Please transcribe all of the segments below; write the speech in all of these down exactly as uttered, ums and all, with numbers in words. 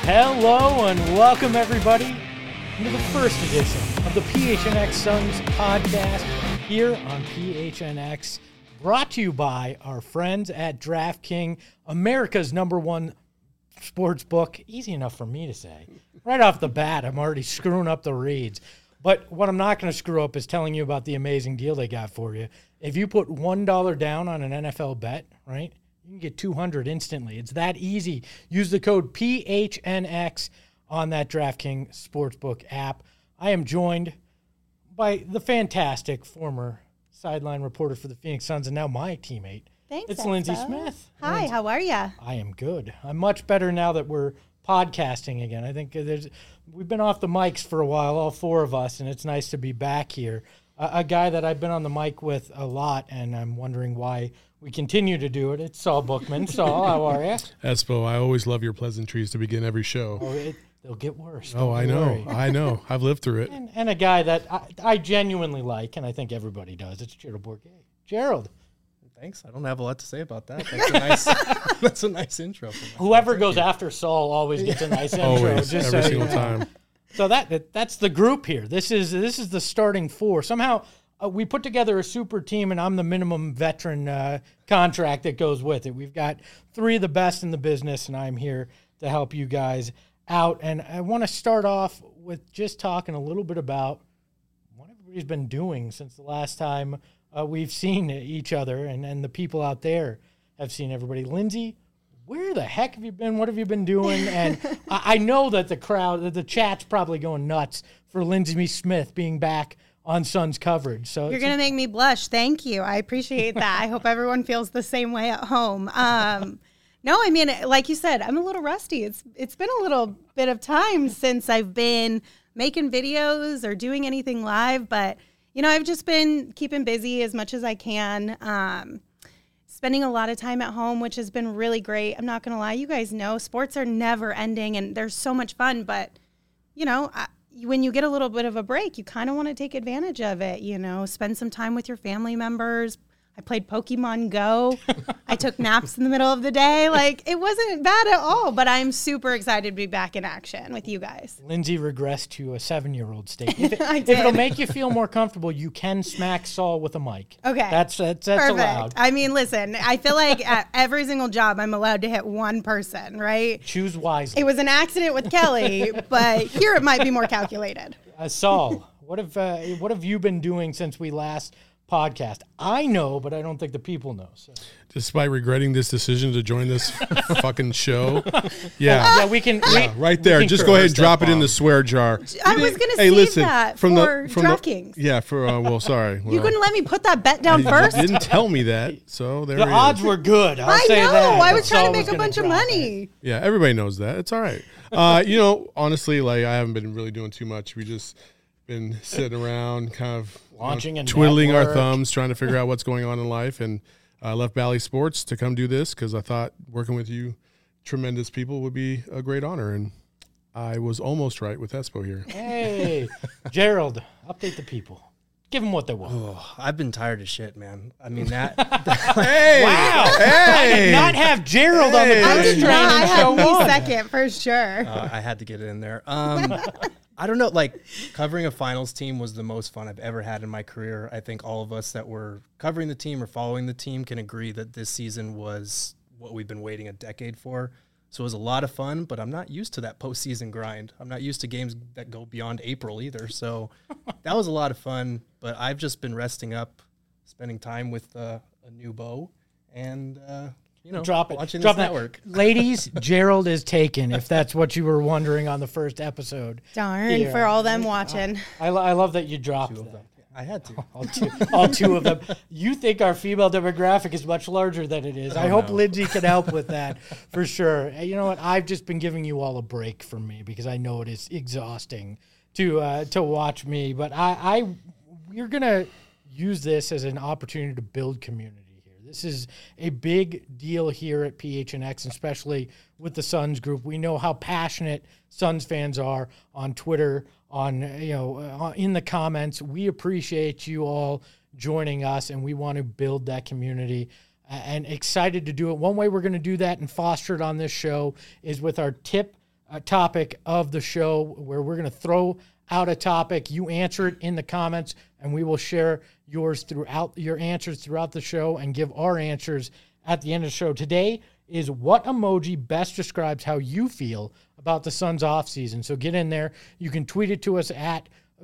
Hello and welcome everybody into the first edition of the P H N X Suns podcast here on P H N X, brought to you by our friends at DraftKings, America's number one sports book. Easy enough for me to say. Right off the bat, I'm already screwing up the reads. But what I'm not going to screw up is telling you about the amazing deal they got for you. If you put one dollar down on an N F L bet, right, you can get two hundred dollars instantly. It's that easy. Use the code P H N X on that DraftKings Sportsbook app. I am joined by the fantastic former sideline reporter for the Phoenix Suns and now my teammate. Thanks, It's Expo. Lindsay Smith. Hi, Lindsay. how are you? I am good. I'm much better now that we're podcasting again. I think there's we've been off the mics for a while, all four of us, and it's nice to be back here. A, a guy that I've been on the mic with a lot, and I'm wondering why we continue to do it. It's Saul Bookman. Saul, how are you? Espo, I always love your pleasantries to begin every show. Oh, it, they'll get worse. Oh, I know. Worry. I know. I've lived through it. And, and a guy that I, I genuinely like, and I think everybody does. It's Gerald Bourguet. Gerald. Thanks. I don't have a lot to say about that. That's a nice, that's a nice intro. For myself. Whoever Thank goes you. after Saul always gets a nice intro. Always, just every so single you know. time. So that, that that's the group here. This is this is the starting four. Somehow uh, we put together a super team, and I'm the minimum veteran uh, contract that goes with it. We've got three of the best in the business, and I'm here to help you guys out. And I want to start off with just talking a little bit about what everybody's been doing since the last time uh, we've seen each other, and, and the people out there have seen everybody. Lindsay, where the heck have you been? What have you been doing? And I, I know that the crowd, that the chat's probably going nuts for Lindsay Smith being back on Suns coverage. So You're going to make me blush. Thank you. I appreciate that. I hope everyone feels the same way at home. Um, no, I mean, like you said, I'm a little rusty. It's It's been a little bit of time since I've been making videos or doing anything live, but, you know, I've just been keeping busy as much as I can. Um, spending a lot of time at home, which has been really great. I'm not going to lie. You guys know sports are never ending and they're so much fun, but, you know, I, when you get a little bit of a break, you kind of want to take advantage of it, you know, spend some time with your family members. I played Pokemon Go. I took naps in the middle of the day. Like, it wasn't bad at all, but I'm super excited to be back in action with you guys. Lindsay regressed to a seven-year-old state. If, it, I if did. it'll make you feel more comfortable, you can smack Saul with a mic. Okay. That's that's, that's Perfect. allowed. I mean, listen, I feel like at every single job, I'm allowed to hit one person, right? Choose wisely. It was an accident with Kelly, but here it might be more calculated. Uh, Saul, what have uh, what have you been doing since we last podcast? I know, but I don't think the people know. So. Despite regretting this decision to join this fucking show. Yeah. Yeah, we can. Yeah, we, right there. we Just concur. go ahead and Step drop it in bomb. the swear jar. I You was didn't- going to hey, save listen, that from for the, from the- DraftKings. Yeah, for, uh, well, sorry. You Well, couldn't let me put that bet down you first? didn't tell me that, so there The it odds is. were good. I'll I say know. that. I but was trying Saul to make a gonna bunch of drop money. it. Yeah, everybody knows that. It's all right. Uh, you know, honestly, like, I haven't been really doing too much. We just been sitting around kind of you know, Launching a twiddling our network. thumbs, trying to figure out what's going on in life. And I left Bally Sports to come do this because I thought working with you tremendous people would be a great honor. And I was almost right with Espo here. Hey, Gerald, update the people. Give them what they want. Oh, I've been tired of shit, man. I mean that. Hey! Wow. I did not have Gerald on the Hey. I first did train not. I in had show me one. second for sure. uh, I had to get it in there. Um, I don't know. Like covering a finals team was the most fun I've ever had in my career. I think all of us that were covering the team or following the team can agree that this season was what we've been waiting a decade for. So it was a lot of fun, but I'm not used to that postseason grind. I'm not used to games that go beyond April either. So that was a lot of fun, but I've just been resting up, spending time with uh, a new beau, and uh, you know, Drop it. watching Drop this that. network. Ladies, Gerald is taken, if that's what you were wondering on the first episode. Darn, Here. for all them watching. I, lo- I love that you dropped Two of that. them. I had to. All two, all two of them. You think our female demographic is much larger than it is. I Oh, hope no. Lindsay can help with that for sure. You know what? I've just been giving you all a break from me because I know it is exhausting to uh, to watch me. But I, I we're gonna use this as an opportunity to build community here. This is a big deal here at P H N X, especially with the Suns group. We know how passionate Suns fans are on Twitter, on you know, uh, in the comments. We appreciate you all joining us, and we want to build that community. Uh, and excited to do it. One way we're going to do that and foster it on this show is with our tip uh, topic of the show where we're going to throw out a topic. You answer it in the comments, and we will share yours throughout your answers throughout the show and give our answers at the end of the show. Today is what emoji best describes how you feel about the Suns offseason. So get in there. You can tweet it to us at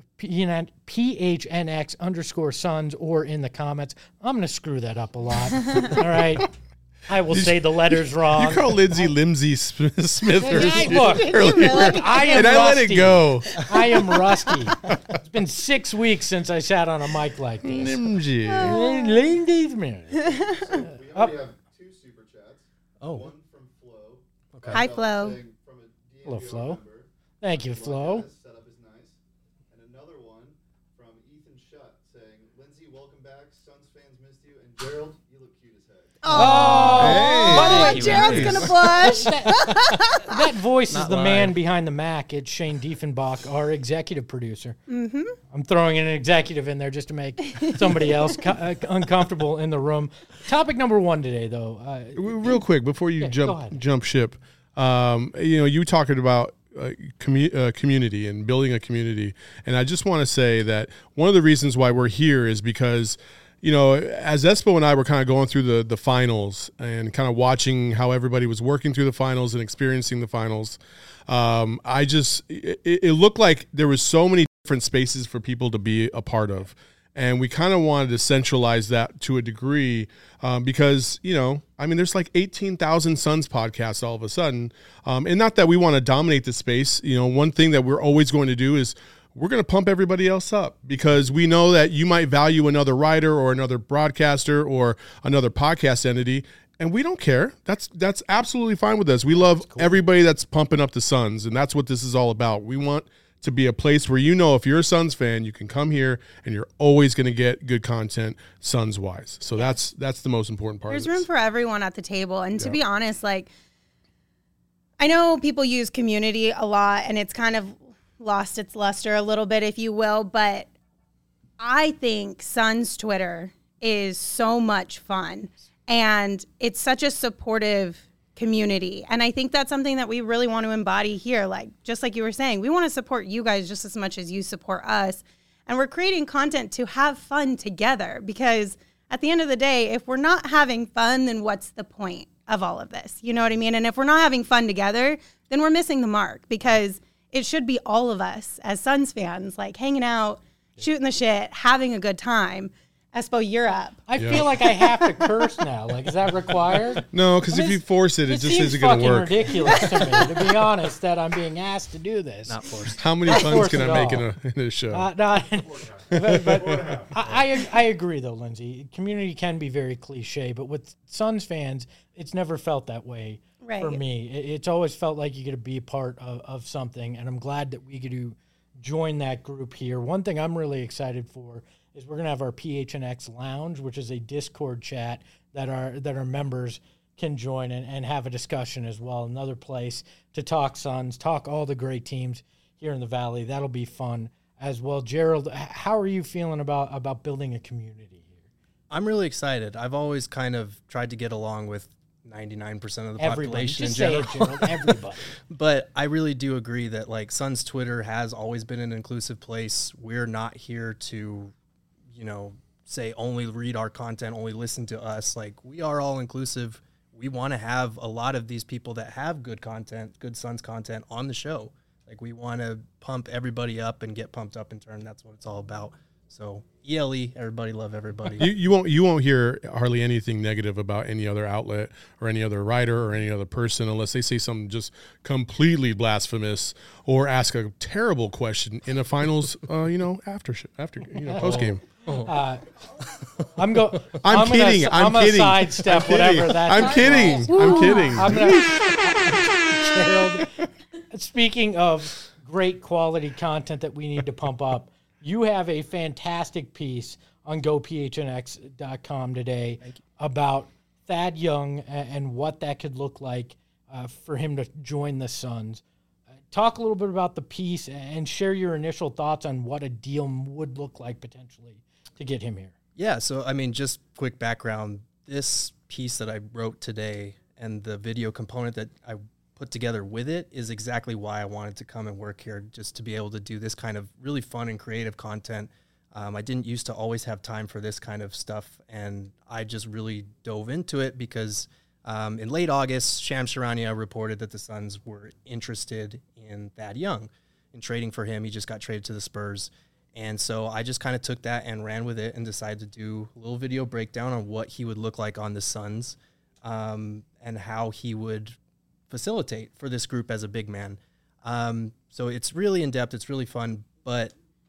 P H N X underscore Suns or in the comments. I'm going to screw that up a lot. All right. I will say the letters wrong. You call Lindsay Limsey Smith Yeah, look, earlier, I am and I let rusty. it go. I am rusty. It's been six weeks since I sat on a mic like this. Limsey. Lindsay Smith. We already have two super chats. Oh. One from Flo. Okay. Hi, Flo. Saying from a D M V Hello, Flo. member, Thank you, Flo. "Guys, setup is nice." And another one from Ethan Shutt saying, "Lindsay, welcome back. Suns fans missed you. And Gerald, you look cute as heck." Oh, by the way, Thank you, Gerald's man. gonna blush. That voice is Not the lying. man behind the Mac. It's Shane Diefenbach, our executive producer. Mm-hmm. I'm throwing an executive in there just to make somebody else co- uh, uncomfortable in the room. Topic number one today, though. Uh, Real quick before you Yeah, go jump ahead. jump ship, um, you know, you talking about uh, commu- uh, community and building a community, and I just want to say that one of the reasons why we're here is because, you know, as Espo and I were kind of going through the the finals and kind of watching how everybody was working through the finals and experiencing the finals, um, I just it, it looked like there was so many different spaces for people to be a part of. And we kind of wanted to centralize that to a degree um, because, you know, I mean, there's like eighteen thousand Suns podcasts all of a sudden. Um, and not that we want to dominate the space. You know, one thing that we're always going to do is we're going to pump everybody else up because we know that you might value another writer or another broadcaster or another podcast entity. And we don't care. That's that's absolutely fine with us. We love everybody that's pumping up the Suns. And that's what this is all about. We want to be a place where, you know, if you're a Suns fan, you can come here and you're always going to get good content Suns wise. So that's that's the most important part. There's of this. room for everyone at the table. And to Yeah. be honest, like, I know people use community a lot and it's kind of lost its luster a little bit, if you will, but I think Suns Twitter is so much fun and it's such a supportive community. And I think that's something that we really want to embody here. Like, just like you were saying, we want to support you guys just as much as you support us. And we're creating content to have fun together because at the end of the day, if we're not having fun, then what's the point of all of this? You know what I mean? And if we're not having fun together, then we're missing the mark because it should be all of us as Suns fans, like hanging out, shooting the shit, having a good time. Espo, you're up. I Yeah. feel like I have to curse now. Like, is that required? No, because I if mean, you force it, it, just seems isn't going fucking to work. ridiculous to me, to be honest, that I'm being asked to do this. Not forced. How many Not puns forced can I at make all. in a, in a show? Uh, no, but, but I, I I agree though, Lindsay. Community can be very cliche, but with Suns fans, it's never felt that way Right. for me. It, it's always felt like you get to be a part of, of something, and I'm glad that we get to join that group here. One thing I'm really excited for is we're gonna have our P H N X Lounge, which is a Discord chat that our that our members can join and, and have a discussion as well. Another place to talk Suns, talk all the great teams here in the Valley. That'll be fun as well. Gerald, h- how are you feeling about, about building a community here? I'm really excited. I've always kind of tried to get along with ninety-nine percent of the Everybody, population just in say general. it, Gerald. Everybody. But I really do agree that like Suns Twitter has always been an inclusive place. We're not here to, you know, say only read our content, only listen to us. Like, we are all inclusive. We want to have a lot of these people that have good content, good Suns content on the show. Like, we want to pump everybody up and get pumped up in turn. That's what it's all about. So E L E, everybody love everybody. You, you won't you won't hear hardly anything negative about any other outlet or any other writer or any other person unless they say something just completely blasphemous or ask a terrible question in a finals, uh, you know, after sh- after you know post game. Uh, I'm go. I'm, gonna, kidding. I'm, I'm gonna kidding. sidestep I'm kidding. whatever that. I'm kidding. I'm kidding. I'm gonna. Gerald, speaking of great quality content that we need to pump up, you have a fantastic piece on go P H N X dot com today about Thad Young and, and what that could look like uh, for him to join the Suns. Uh, talk a little bit about the piece and share your initial thoughts on what a deal would look like potentially to get him here. Yeah, so I mean, just quick background. This piece that I wrote today and the video component that I put together with it is exactly why I wanted to come and work here, just to be able to do this kind of really fun and creative content. Um, I didn't used to always have time for this kind of stuff, and I just really dove into it because um, in late August, Shams Charania reported that the Suns were interested in Thad Young, in trading for him. He just got traded to the Spurs. And so I just kind of took that and ran with it and decided to do a little video breakdown on what he would look like on the Suns um, and how he would facilitate for this group as a big man. Um, so it's really in-depth. It's really fun. But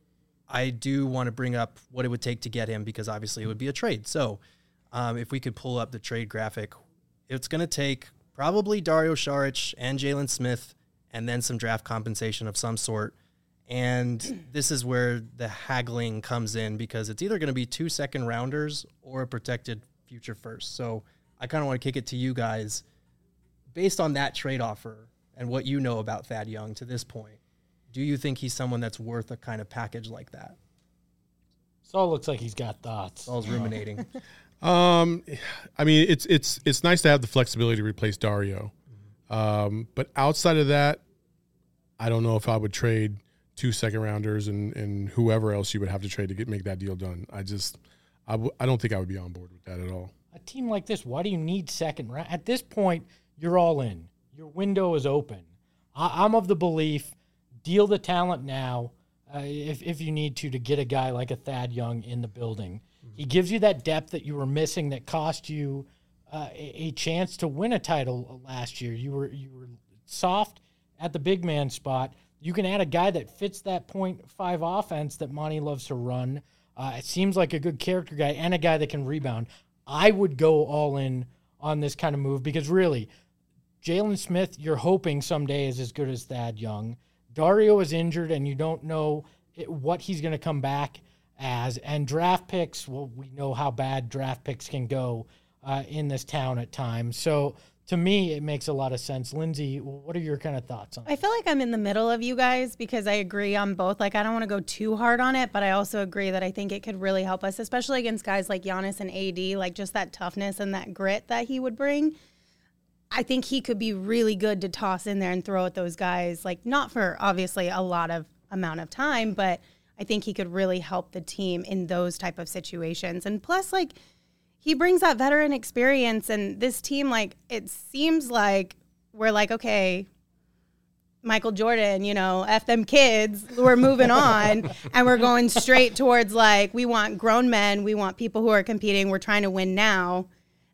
I do want to bring up what it would take to get him because obviously it would be a trade. So um, if we could pull up the trade graphic, it's going to take probably Dario Saric and Jalen Smith and then some draft compensation of some sort. And this is where the haggling comes in because it's either going to be two second rounders or a protected future first. So I kind of want to kick it to you guys. Based on that trade offer and what you know about Thad Young to this point, do you think he's someone that's worth a kind of package like that? Saul looks like he's got thoughts. Saul's ruminating. Um, I mean, it's it's it's nice to have the flexibility to replace Dario, um, but outside of that, I don't know if I would trade two second rounders and, and whoever else you would have to trade to get make that deal done. I just, I, w- I don't think I would be on board with that at all. A team like this, why do you need second round? At this point, you're all in. Your window is open. I, I'm of the belief, deal the talent now uh, if, if you need to to get a guy like a Thad Young in the building. Mm-hmm. He gives you that depth that you were missing that cost you uh, a, a chance to win a title last year. You were you were soft at the big man spot. You can add a guy that fits that point five offense that Monty loves to run. Uh, it seems like a good character guy and a guy that can rebound. I would go all in on this kind of move because really, Jalen Smith, you're hoping someday is as good as Thad Young. Dario is injured and you don't know it, what he's going to come back as. And draft picks, well, we know how bad draft picks can go uh, in this town at times. So to me, it makes a lot of sense. Lindsay, what are your kind of thoughts on it? I feel like I'm in the middle of you guys because I agree on both. Like, I don't want to go too hard on it, but I also agree that I think it could really help us, especially against guys like Giannis and A D, like just that toughness and that grit that he would bring. I think he could be really good to toss in there and throw at those guys, like not for obviously a lot of amount of time, but I think he could really help the team in those type of situations. And plus, like, he brings that veteran experience, and this team, like, it seems like we're like, okay, Michael Jordan, you know, F them kids, we're moving on, and we're going straight towards, like, we want grown men, we want people who are competing, we're trying to win now.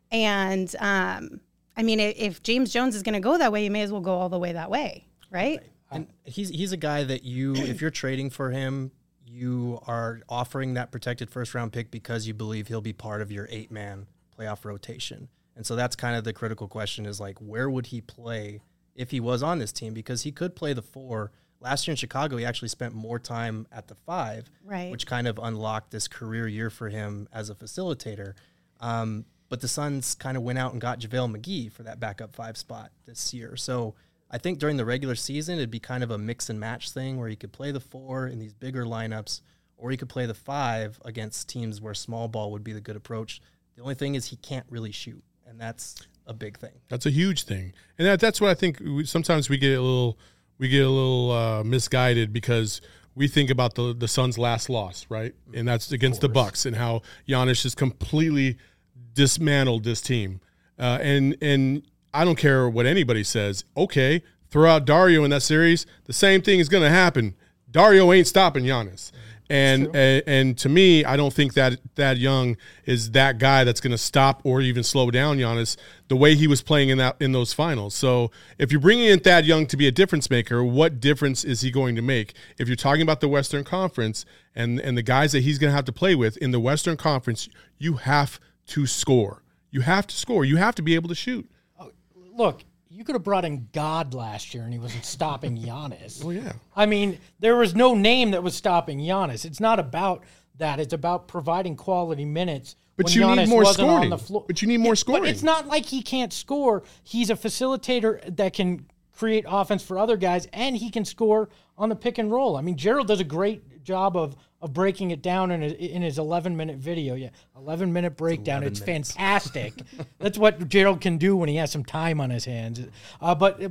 And, um, I mean, if James Jones is going to go that way, you may as well go all the way that way, right? And he's he's a guy that you, if you're trading for him, you are offering that protected first-round pick because you believe he'll be part of your eight-man playoff rotation. And so that's kind of the critical question is, like, where would he play if he was on this team? Because he could play the four. Last year in Chicago, he actually spent more time at the five, right, which kind of unlocked this career year for him as a facilitator. Um, but the Suns kind of went out and got JaVale McGee for that backup five spot this year. So I think during the regular season, it'd be kind of a mix and match thing where he could play the four in these bigger lineups, or he could play the five against teams where small ball would be the good approach. The only thing is he can't really shoot, and that's a big thing. That's a huge thing. And that, that's what I think we, sometimes we get a little we get a little uh, misguided because we think about the the Suns' last loss, right? And that's against the Bucks and how Giannis just completely dismantled this team. Uh, and and I don't care what anybody says. Okay, throw out Dario in that series. The same thing is going to happen. Dario ain't stopping Giannis. And, and and to me, I don't think that Thad Young is that guy that's going to stop or even slow down Giannis the way he was playing in that in those finals. So if you're bringing in Thad Young to be a difference maker, what difference is he going to make? If you're talking about the Western Conference and, and the guys that he's going to have to play with in the Western Conference, you have to score. You have to score. You have to be able to shoot. Look, you could have brought in God last year and he wasn't stopping Giannis. Oh, yeah. I mean, there was no name that was stopping Giannis. It's not about that. It's about providing quality minutes. But when you Giannis need more wasn't scoring. on the floor. But you need more scoring. But it's not like he can't score. He's a facilitator that can create offense for other guys, and he can score on the pick and roll. I mean, Gerald does a great job of of breaking it down in his, in his eleven-minute video. Yeah, eleven-minute breakdown. It's, it's fantastic. That's what Gerald can do when he has some time on his hands. Uh, but but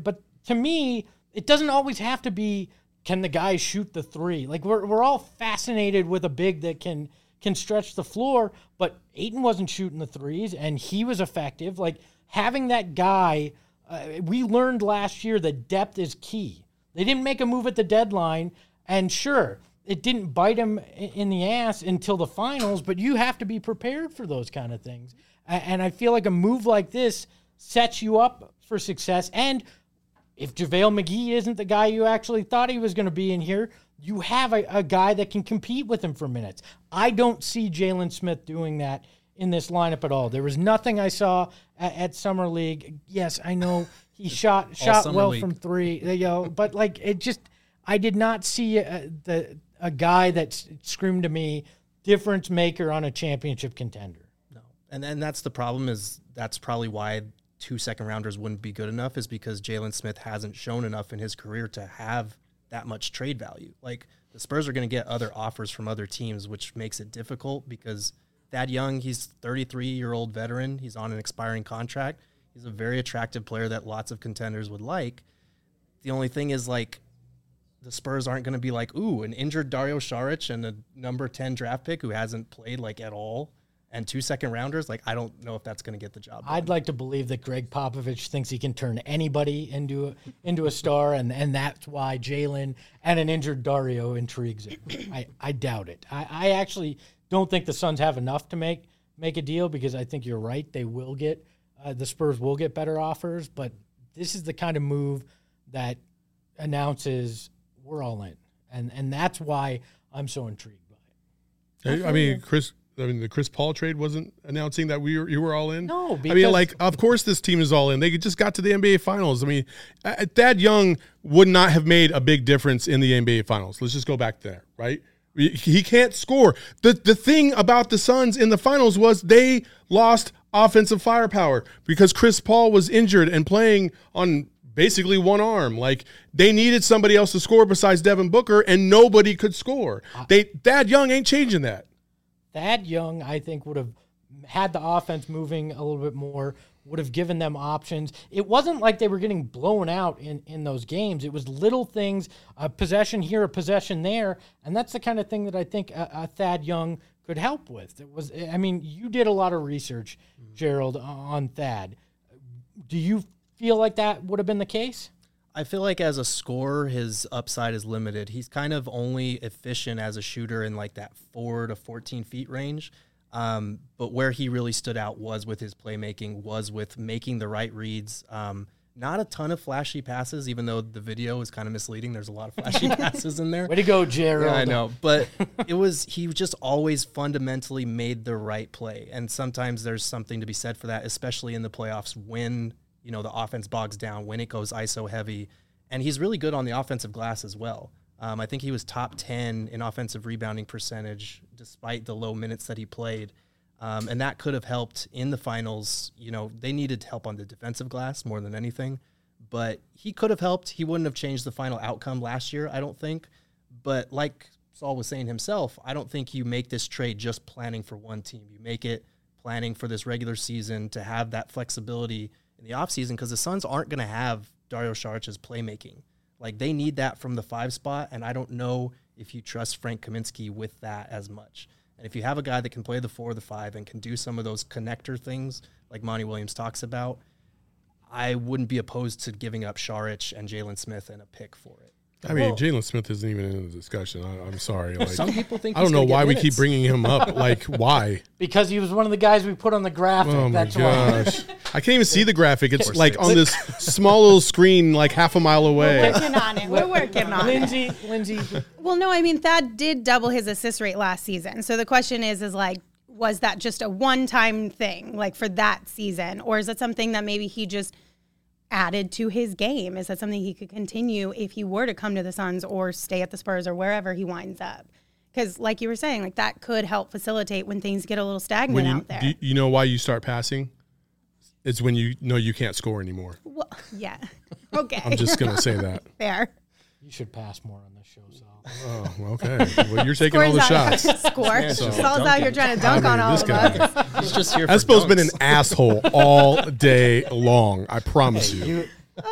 to me, it doesn't always have to be, can the guy shoot the three? Like, we're we're all fascinated with a big that can can stretch the floor, but Ayton wasn't shooting the threes, and he was effective. Like, having that guy, uh, we learned last year that depth is key. They didn't make a move at the deadline, and sure, it didn't bite him in the ass until the finals, but you have to be prepared for those kind of things. And I feel like a move like this sets you up for success. And if JaVale McGee isn't the guy you actually thought he was going to be in here, you have a, a guy that can compete with him for minutes. I don't see Jalen Smith doing that in this lineup at all. There was nothing I saw at, at Summer League. Yes, I know he shot shot well League. from three, you know, but like it just, I did not see a, the a guy that screamed to me difference maker on a championship contender. No, and and that's the problem. Is that's probably why two second rounders wouldn't be good enough, is because Jalen Smith hasn't shown enough in his career to have that much trade value. Like, the Spurs are going to get other offers from other teams, which makes it difficult because Thad Young, he's thirty-three-year-old veteran. He's on an expiring contract. He's a very attractive player that lots of contenders would like. The only thing is, like, the Spurs aren't going to be like, ooh, an injured Dario Saric and a number ten draft pick who hasn't played, like, at all, and two second rounders. Like, I don't know if that's going to get the job done. I'd like to believe that Greg Popovich thinks he can turn anybody into a, into a star, and, and that's why Jalen and an injured Dario intrigues him. I, I doubt it. I, I actually don't think the Suns have enough to make make a deal, because I think you're right. They will get uh, the Spurs will get better offers, but this is the kind of move that announces we're all in, and and that's why I'm so intrigued by it. I mean, Chris. I mean, the Chris Paul trade wasn't announcing that we were, you were all in. No, because I mean, like, of course this team is all in. They just got to the N B A Finals. I mean, uh, Thad Young would not have made a big difference in the N B A Finals. Let's just go back there, right? He can't score. The the thing about the Suns in the finals was they lost offensive firepower because Chris Paul was injured and playing on basically one arm. Like, they needed somebody else to score besides Devin Booker, and nobody could score. They Thad Young ain't changing that. Thad Young, I think, would have had the offense moving a little bit more, would have given them options. It wasn't like they were getting blown out in, in those games. It was little things, a possession here, a possession there, and that's the kind of thing that I think a, a Thad Young could help with. It was, I mean, you did a lot of research, Gerald, on Thad. Do you feel like that would have been the case? I feel like as a scorer, his upside is limited. He's kind of only efficient as a shooter in like that four to fourteen feet range. Um, but where he really stood out was with his playmaking, was with making the right reads. Um, not a ton of flashy passes, even though the video is kind of misleading. There's a lot of flashy passes in there. Way to go, Gerald. Yeah, I know. But it was, he just always fundamentally made the right play. And sometimes there's something to be said for that, especially in the playoffs when, you know, the offense bogs down, when it goes I S O heavy. And he's really good on the offensive glass as well. Um, I think he was top ten in offensive rebounding percentage despite the low minutes that he played. Um, and that could have helped in the finals. You know, they needed help on the defensive glass more than anything. But he could have helped. He wouldn't have changed the final outcome last year, I don't think. But like Saul was saying himself, I don't think you make this trade just planning for one team. You make it planning for this regular season to have that flexibility in the offseason, because the Suns aren't going to have Dario Saric's playmaking. Like, they need that from the five spot, and I don't know if you trust Frank Kaminsky with that as much. And if you have a guy that can play the four or the five and can do some of those connector things like Monty Williams talks about, I wouldn't be opposed to giving up Saric and Jalen Smith and a pick for it. I mean, Jalen Smith isn't even in the discussion. I, I'm sorry. Like, some people think I don't know why we keep bringing him up. Like, why? Because he was one of the guys we put on the graphic. Oh my That's gosh! Why. I can't even see the graphic. It's like on this small little screen, like half a mile away. We're working on it. We're working on Lindsay, it. Lindsay. Well, no, I mean, Thad did double his assist rate last season. So the question is, is like, was that just a one-time thing, like for that season, or is it something that maybe he just added to his game? Is that something he could continue if he were to come to the Suns or stay at the Spurs or wherever he winds up? Because like you were saying, like that could help facilitate when things get a little stagnant when you, out there. Do you know why you start passing? It's when you know you can't score anymore. Well, yeah. Okay. I'm just going to say that. Fair. You should pass more on this show, Sal. Oh, okay. Well, you're taking Scores all the out. shots. Score. So- Saul's out here trying to dunk I mean, on all this of guy. us. He's just here for Espo's been an dunks. asshole all day long. I promise you. You, Ah.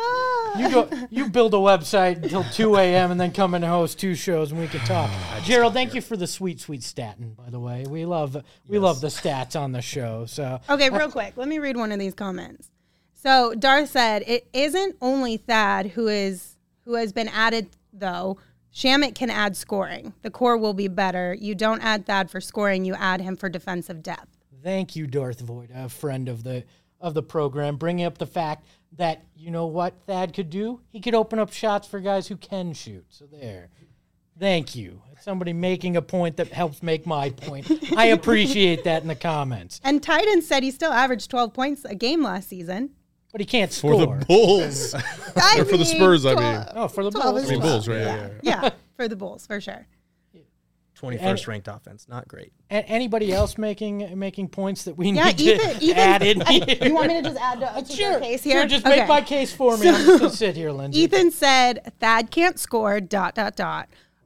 You go. You build a website until two a.m. and then come and host two shows and we can talk. Gerald, thank you for the sweet, sweet statin. By the way, we love we Yes. love the stats on the show. So Okay, real quick. Let me read one of these comments. So Darth said, it isn't only Thad who is who has been added, though. Shamit can add scoring. The core will be better. You don't add Thad for scoring. You add him for defensive depth. thank you, Darth Void, a friend of the of the program, bringing up the fact that, you know what Thad could do? He could open up shots for guys who can shoot. So there. Thank you. Somebody making a point that helps make my point. I appreciate that in the comments. And Titan said he still averaged twelve points a game last season. But he can't For score. the Bulls. I Or for the mean, Spurs, I twelve mean. Oh, for the twelve Bulls. is I mean, twelve. Bulls, right? Yeah, yeah, yeah. Yeah, for the Bulls, for sure. twenty-first ranked offense, not great. A- anybody else making making points that we Yeah, need Ethan- to Ethan- add in here? You want me to just add to, to Sure, your case here? sure, just Okay. make my case for me. I'm just going to sit here, Lindsay. Ethan said Thad can't score, dot, dot, dot.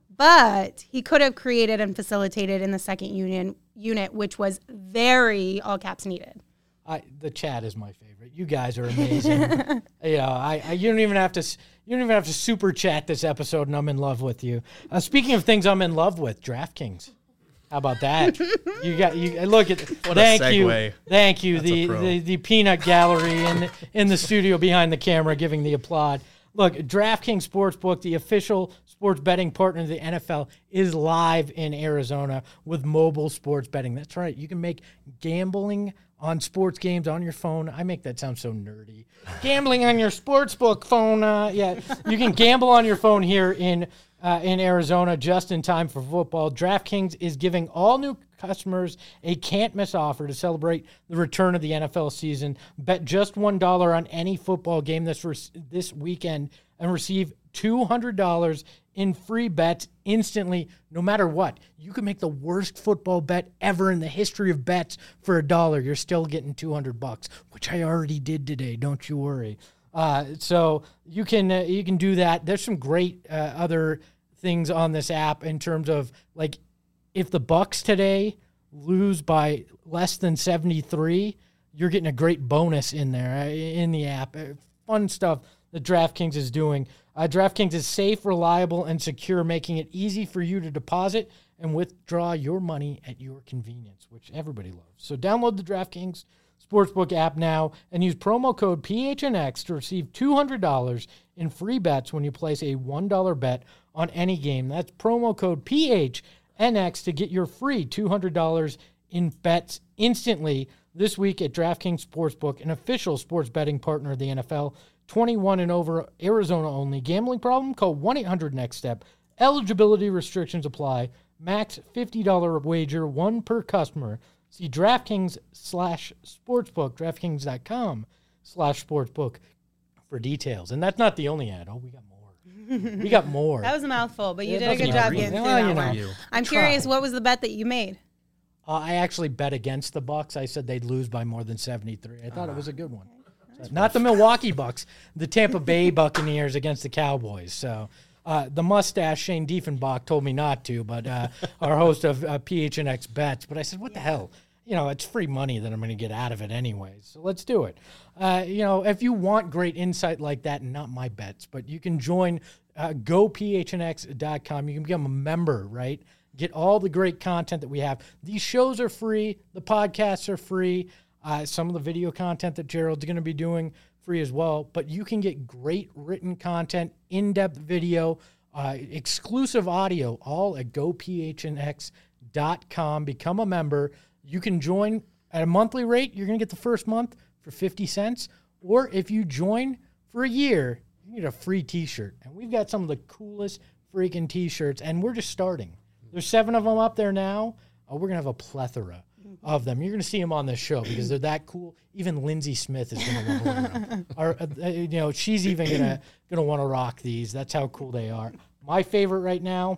But he could have created and facilitated in the second union unit, which was very all caps needed. I, the chat is my favorite. You guys are amazing. you know, I, I you don't even have to s- you don't even have to super chat this episode, and I'm in love with you. Uh, speaking of things I'm in love with, DraftKings. How about that? you got you look at What a thank segue. you, thank you. That's a The, pro. the the peanut gallery in in the studio behind the camera giving the applaud. Look, DraftKings Sportsbook, the official sports betting partner of the N F L, is live in Arizona with mobile sports betting. That's right. You can make gambling on sports games on your phone. I make that sound so nerdy. Gambling on your sportsbook phone. Uh, yeah, you can gamble on your phone here in uh, in Arizona just in time for football. DraftKings is giving all new customers a can't-miss offer to celebrate the return of the N F L season. Bet just one dollar on any football game this re- this weekend and receive two hundred dollars in free bets instantly, no matter what. You can make the worst football bet ever in the history of bets for a dollar. You're still getting two hundred bucks, which I already did today. Don't you worry. Uh, so you can uh, you can do that. There's some great uh, other things on this app in terms of, like, if the Bucks today lose by less than seventy-three, you're getting a great bonus in there uh, in the app. Uh, Fun stuff that DraftKings is doing. Uh, DraftKings is safe, reliable, and secure, making it easy for you to deposit and withdraw your money at your convenience, which everybody loves. So download the DraftKings Sportsbook app now and use promo code P H N X to receive two hundred dollars in free bets when you place a one dollar bet on any game. That's promo code P H N X to get your free two hundred dollars in bets instantly this week at DraftKings Sportsbook, an official sports betting partner of the N F L. twenty-one and over, Arizona only. Gambling problem? Call one eight hundred next step. Eligibility restrictions apply. Max fifty dollars wager, one per customer. See DraftKings slash sportsbook, DraftKings.com slash sportsbook for details. And that's not the only ad. Oh, we got more. We got more. That was a mouthful, but you It did a doesn't good job agree. getting through Well, that you know. one. You. I'm Try. curious, what was the bet that you made? Uh, I actually bet against the Bucks. I said they'd lose by more than seventy-three. I thought it was a good one. So, not the Milwaukee Bucks, the Tampa Bay Buccaneers against the Cowboys. So uh, the mustache Shane Diefenbach told me not to, but uh, our host of uh, P H N X Bets. But I said, what the hell? You know, it's free money that I'm going to get out of it anyway. So let's do it. Uh, you know, if you want great insight like that, and not my bets, but you can join uh, go P H N X dot com. You can become a member, right? Get all the great content that we have. These shows are free. The podcasts are free. Uh, some of the video content that Gerald's going to be doing free as well. But you can get great written content, in-depth video, uh, exclusive audio, all at go P H N X dot com. Become a member. You can join at a monthly rate. You're going to get the first month for fifty cents. Or if you join for a year, you can get a free T-shirt. And we've got some of the coolest freaking T-shirts. And we're just starting. There's seven of them up there now. Uh, we're going to have a plethora of them. You're going to see them on this show because they're that cool. Even Lindsay Smith is going to want to wear them. Or, uh, you know, she's even going to going to want to rock these. That's how cool they are. My favorite right now,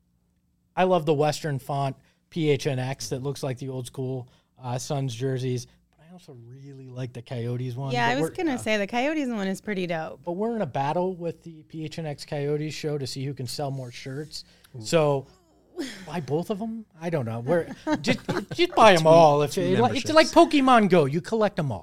I love the Western font P H N X that looks like the old school uh, Suns jerseys. But I also really like the Coyotes one. Yeah, But I was we're- going to say the Coyotes one is pretty dope. But we're in a battle with the P H N X Coyotes show to see who can sell more shirts. So buy both of them? I don't know. We're just just buy them all. If it, it's memberships. like Pokemon Go, you collect them all.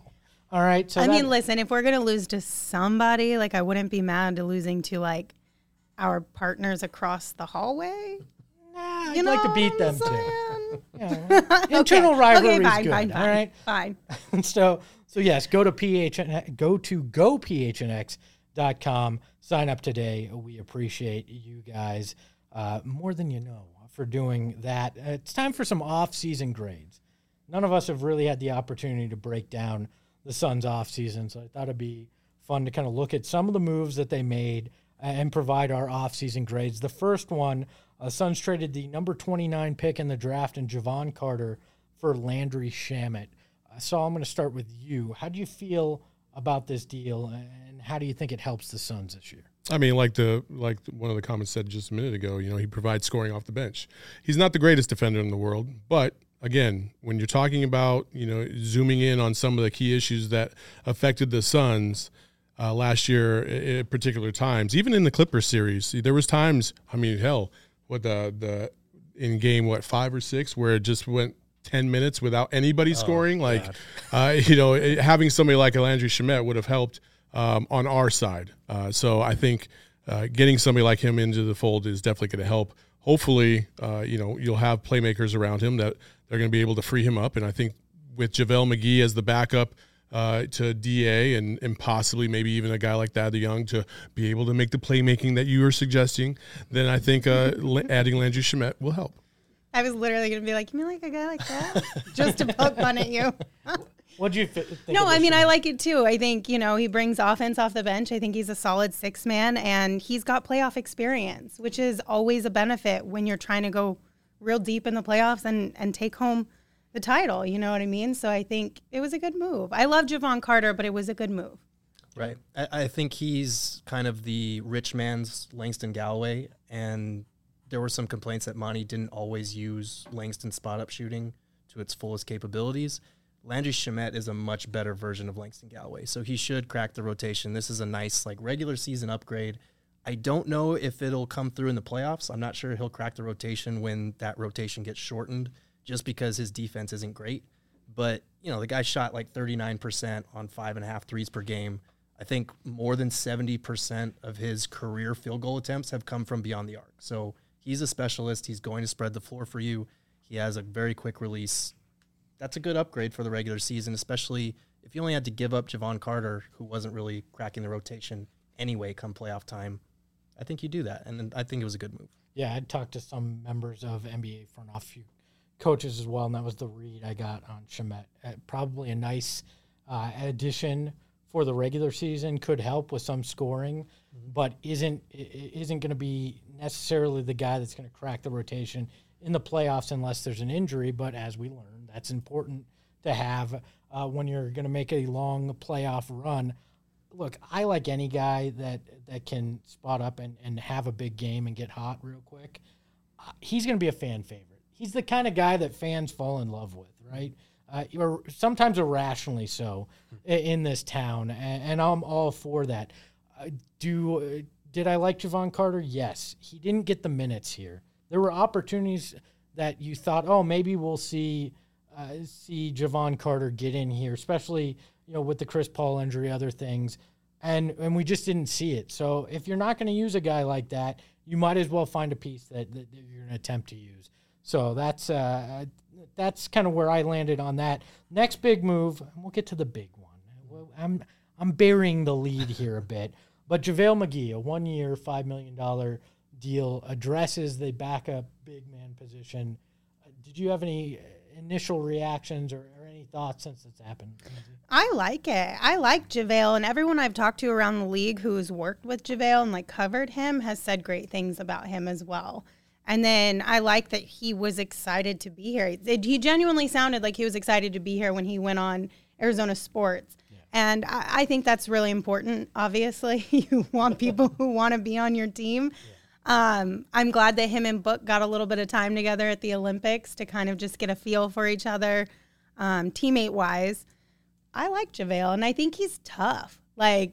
All right. So I that, mean, listen, if we're going to lose to somebody, like I wouldn't be mad to losing to like our partners across the hallway. nah, I'd You like to know beat what I'm them too. saying? Yeah. Internal rivalry okay, fine, is good. fine, fine, all right. fine. so so yes, go to P H N go to go P H N X dot com. Sign up today. We appreciate you guys uh, more than you know for doing that. Uh, it's time for some off-season grades. None of us have really had the opportunity to break down the Suns off-season, so I thought it'd be fun to kind of look at some of the moves that they made and provide our off-season grades. The first one, uh, Suns traded the number twenty-nine pick in the draft and Javon Carter for Landry Shamet. Uh, so I'm going to start with you. How do you feel about this deal, and how do you think it helps the Suns this year? I mean, like the like one of the comments said just a minute ago, you know, he provides scoring off the bench. He's not the greatest defender in the world, but again, when you're talking about, you know, zooming in on some of the key issues that affected the Suns uh, last year at particular times, even in the Clippers series, there was times, I mean, hell, what the the in game what five or six where it just went ten minutes without anybody scoring. Like, uh, you know, it, having somebody like Landry Shamet would have helped um, on our side. Uh, so I think uh, getting somebody like him into the fold is definitely going to help. Hopefully, uh, you know, you'll have playmakers around him that they're going to be able to free him up. And I think with JaVale McGee as the backup uh, to D A and, and possibly maybe even a guy like Thad Young to be able to make the playmaking that you were suggesting, then I think uh, adding Landry Shamet will help. I was literally going to be like, you mean like a guy like that? Just to poke fun at you. What do you fi- think? No, of I this mean, one? I like it too. I think, you know, he brings offense off the bench. I think he's a solid six man and he's got playoff experience, which is always a benefit when you're trying to go real deep in the playoffs and, and take home the title. You know what I mean? So I think it was a good move. I love Javon Carter, but it was a good move. Right. I, I think he's kind of the rich man's Langston Galloway, and there were some complaints that Monty didn't always use Langston spot-up shooting to its fullest capabilities. Landry Shamet is a much better version of Langston Galloway, so he should crack the rotation. This is a nice like regular season upgrade. I don't know if it'll come through in the playoffs. I'm not sure he'll crack the rotation when that rotation gets shortened just because his defense isn't great. But, you know, the guy shot like thirty-nine percent on five and a half threes per game. I think more than seventy percent of his career field goal attempts have come from beyond the arc. So he's a specialist. He's going to spread the floor for you. He has a very quick release. That's a good upgrade for the regular season, especially if you only had to give up Javon Carter, who wasn't really cracking the rotation anyway come playoff time. I think you do that, and I think it was a good move. Yeah, I talked to some members of N B A front office coaches as well, and that was the read I got on Shamet. Uh, probably a nice uh, addition for the regular season, could help with some scoring, mm-hmm. but isn't isn't going to be necessarily the guy that's going to crack the rotation in the playoffs unless there's an injury. But as we learned, that's important to have uh, when you're going to make a long playoff run. Look, I like any guy that, that can spot up and, and have a big game and get hot real quick. Uh, he's going to be a fan favorite. He's the kind of guy that fans fall in love with, right? Uh, or sometimes irrationally so in this town, and, and I'm all for that. Uh, do uh, did I like Javon Carter? Yes. He didn't get the minutes here. There were opportunities that you thought, oh, maybe we'll see uh, see Javon Carter get in here, especially you know with the Chris Paul injury, other things, and and we just didn't see it. So if you're not going to use a guy like that, you might as well find a piece that, that you're going to attempt to use. So that's uh, that's kind of where I landed on that. Next big move, and we'll get to the big one. Well, I'm I'm burying the lead here a bit, but JaVale McGee, a one-year, five million dollars deal, addresses the backup big man position. Uh, did you have any initial reactions or, or any thoughts since it's happened? I like it. I like JaVale, and everyone I've talked to around the league who's worked with JaVale and like covered him has said great things about him as well. And then I like that he was excited to be here. It, he genuinely sounded like he was excited to be here when he went on Arizona Sports. Yeah. And I, I think that's really important, obviously. You want people who want to be on your team. Yeah. Um, I'm glad that him and Book got a little bit of time together at the Olympics to kind of just get a feel for each other, um, teammate-wise. I like JaVale, and I think he's tough. Like,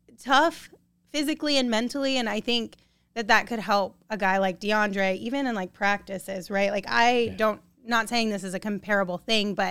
tough physically and mentally, and I think that that could help a guy like DeAndre, even in, like, practices, right? Like, I yeah. don't, not saying this is a comparable thing, but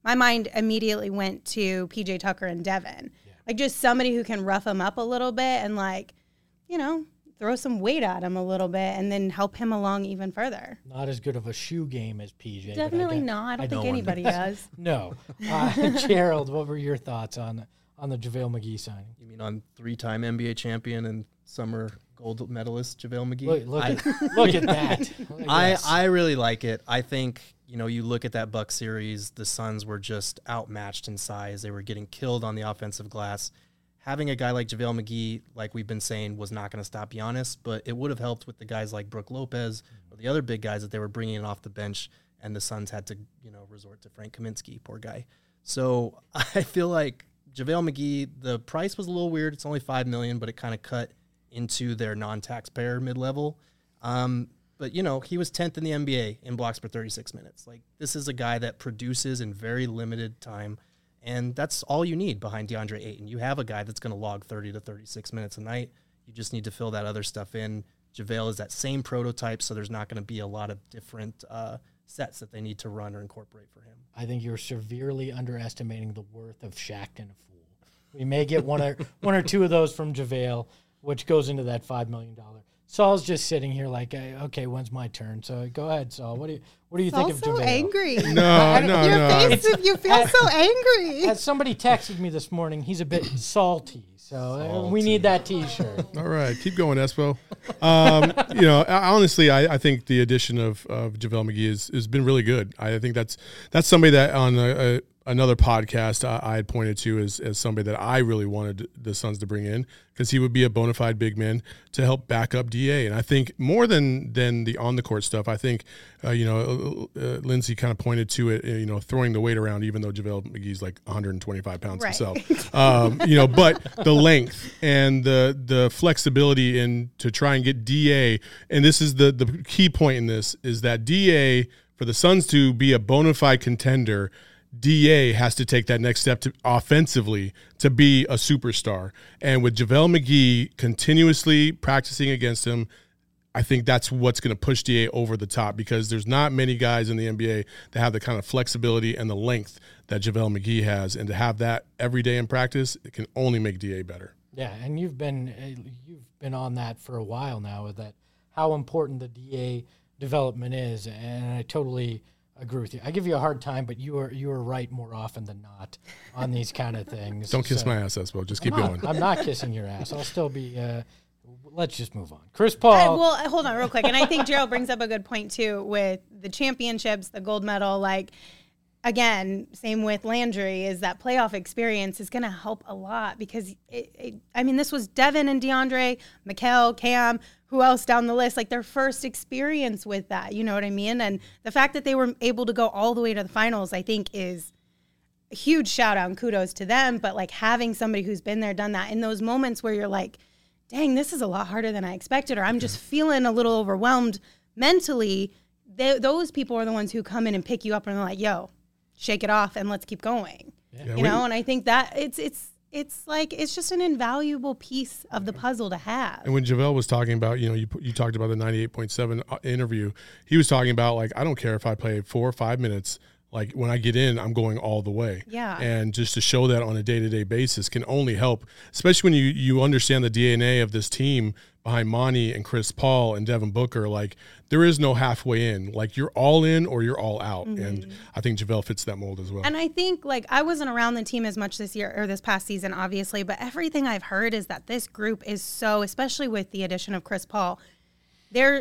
my mind immediately went to P J Tucker and Devin. Yeah. Like just somebody who can rough him up a little bit and like, you know, throw some weight at him a little bit and then help him along even further. Not as good of a shoe game as P J. Definitely I not. I don't I think don't anybody does. No. Uh, Gerald, what were your thoughts on on the JaVale McGee signing? You mean on three-time N B A champion and summer gold medalist JaVale McGee? Look, look, I, at, look at that. I, Yes. I really like it. I think, you know, you look at that Bucks series, the Suns were just outmatched in size. They were getting killed on the offensive glass. Having a guy like JaVale McGee, like we've been saying, was not going to stop Giannis, but it would have helped with the guys like Brook Lopez or the other big guys that they were bringing in off the bench, and the Suns had to, you know, resort to Frank Kaminsky, poor guy. So I feel like JaVale McGee, the price was a little weird. It's only five million dollars, but it kind of cut into their non-taxpayer mid-level. Um, but, you know, he was tenth in the N B A in blocks per thirty-six minutes. Like, this is a guy that produces in very limited time, and that's all you need behind DeAndre Ayton. You have a guy that's going to log thirty to thirty-six minutes a night. You just need to fill that other stuff in. JaVale is that same prototype, so there's not going to be a lot of different uh, sets that they need to run or incorporate for him. I think you're severely underestimating the worth of Shaqtin' a Fool. We may get one or one or two of those from JaVale, which goes into that five million dollars. Saul's just sitting here like, okay, when's my turn? So go ahead, Saul. What do you what do you Saul's think of so JaVale? angry. No, no, Your no. face, you feel so angry. As somebody texted me this morning, he's a bit salty. So uh, we need that T-shirt. All right, keep going, Espo. Um, you know, I, honestly, I, I think the addition of, of JaVale McGee has, has been really good. I think that's that's somebody that on a, a, another podcast I, I had pointed to as, as somebody that I really wanted the Suns to bring in because he would be a bona fide big man to help back up D A. And I think more than than the on the court stuff, I think uh, you know uh, Lindsay kind of pointed to it, you know, throwing the weight around, even though JaVale McGee's like one hundred twenty-five pounds Right. himself. Um, you know, but the length and the the flexibility in to try and get D A, and this is the the key point in this is that D A for the Suns to be a bona fide contender, D A has to take that next step to offensively to be a superstar. And with JaVale McGee continuously practicing against him, I think that's what's going to push D A over the top because there's not many guys in the N B A that have the kind of flexibility and the length that JaVale McGee has. And to have that every day in practice, it can only make D A better. Yeah, and you've been uh, you've been on that for a while now with that how important the D A development is, and I totally agree with you. I give you a hard time, but you are you are right more often than not on these kind of things. Don't kiss So- my ass, Espo. Just keep I'm not, going. I'm not kissing your ass. I'll still be. Uh, let's just move on. Chris Uh, Paul. well, uh, hold on real quick. And I think Gerald brings up a good point, too, with the championships, the gold medal. Like, again, same with Landry, is that playoff experience is going to help a lot because, it, it, I mean, this was Devin and DeAndre, Mikal, Cam, who else down the list, like their first experience with that. You know what I mean? And the fact that they were able to go all the way to the finals, I think, is a huge shout out and kudos to them. But, like, having somebody who's been there, done that, in those moments where you're like, dang, this is a lot harder than I expected, or I'm just feeling a little overwhelmed mentally, they, those people are the ones who come in and pick you up and they're like, yo, shake it off and let's keep going. Yeah, you we- know, and I think that it's it's it's like it's just an invaluable piece of the puzzle to have. And when JaVale was talking about, you know, you you talked about the ninety-eight point seven interview, he was talking about, like, I don't care if I play four or five minutes. Like, when I get in, I'm going all the way. Yeah. And just to show that on a day-to-day basis can only help, especially when you, you understand the D N A of this team behind Monty and Chris Paul and Devin Booker. Like, there is no halfway in. Like, you're all in or you're all out. Mm-hmm. And I think JaVale fits that mold as well. And I think, like, I wasn't around the team as much this year or this past season, obviously, but everything I've heard is that this group is so, especially with the addition of Chris Paul, they're,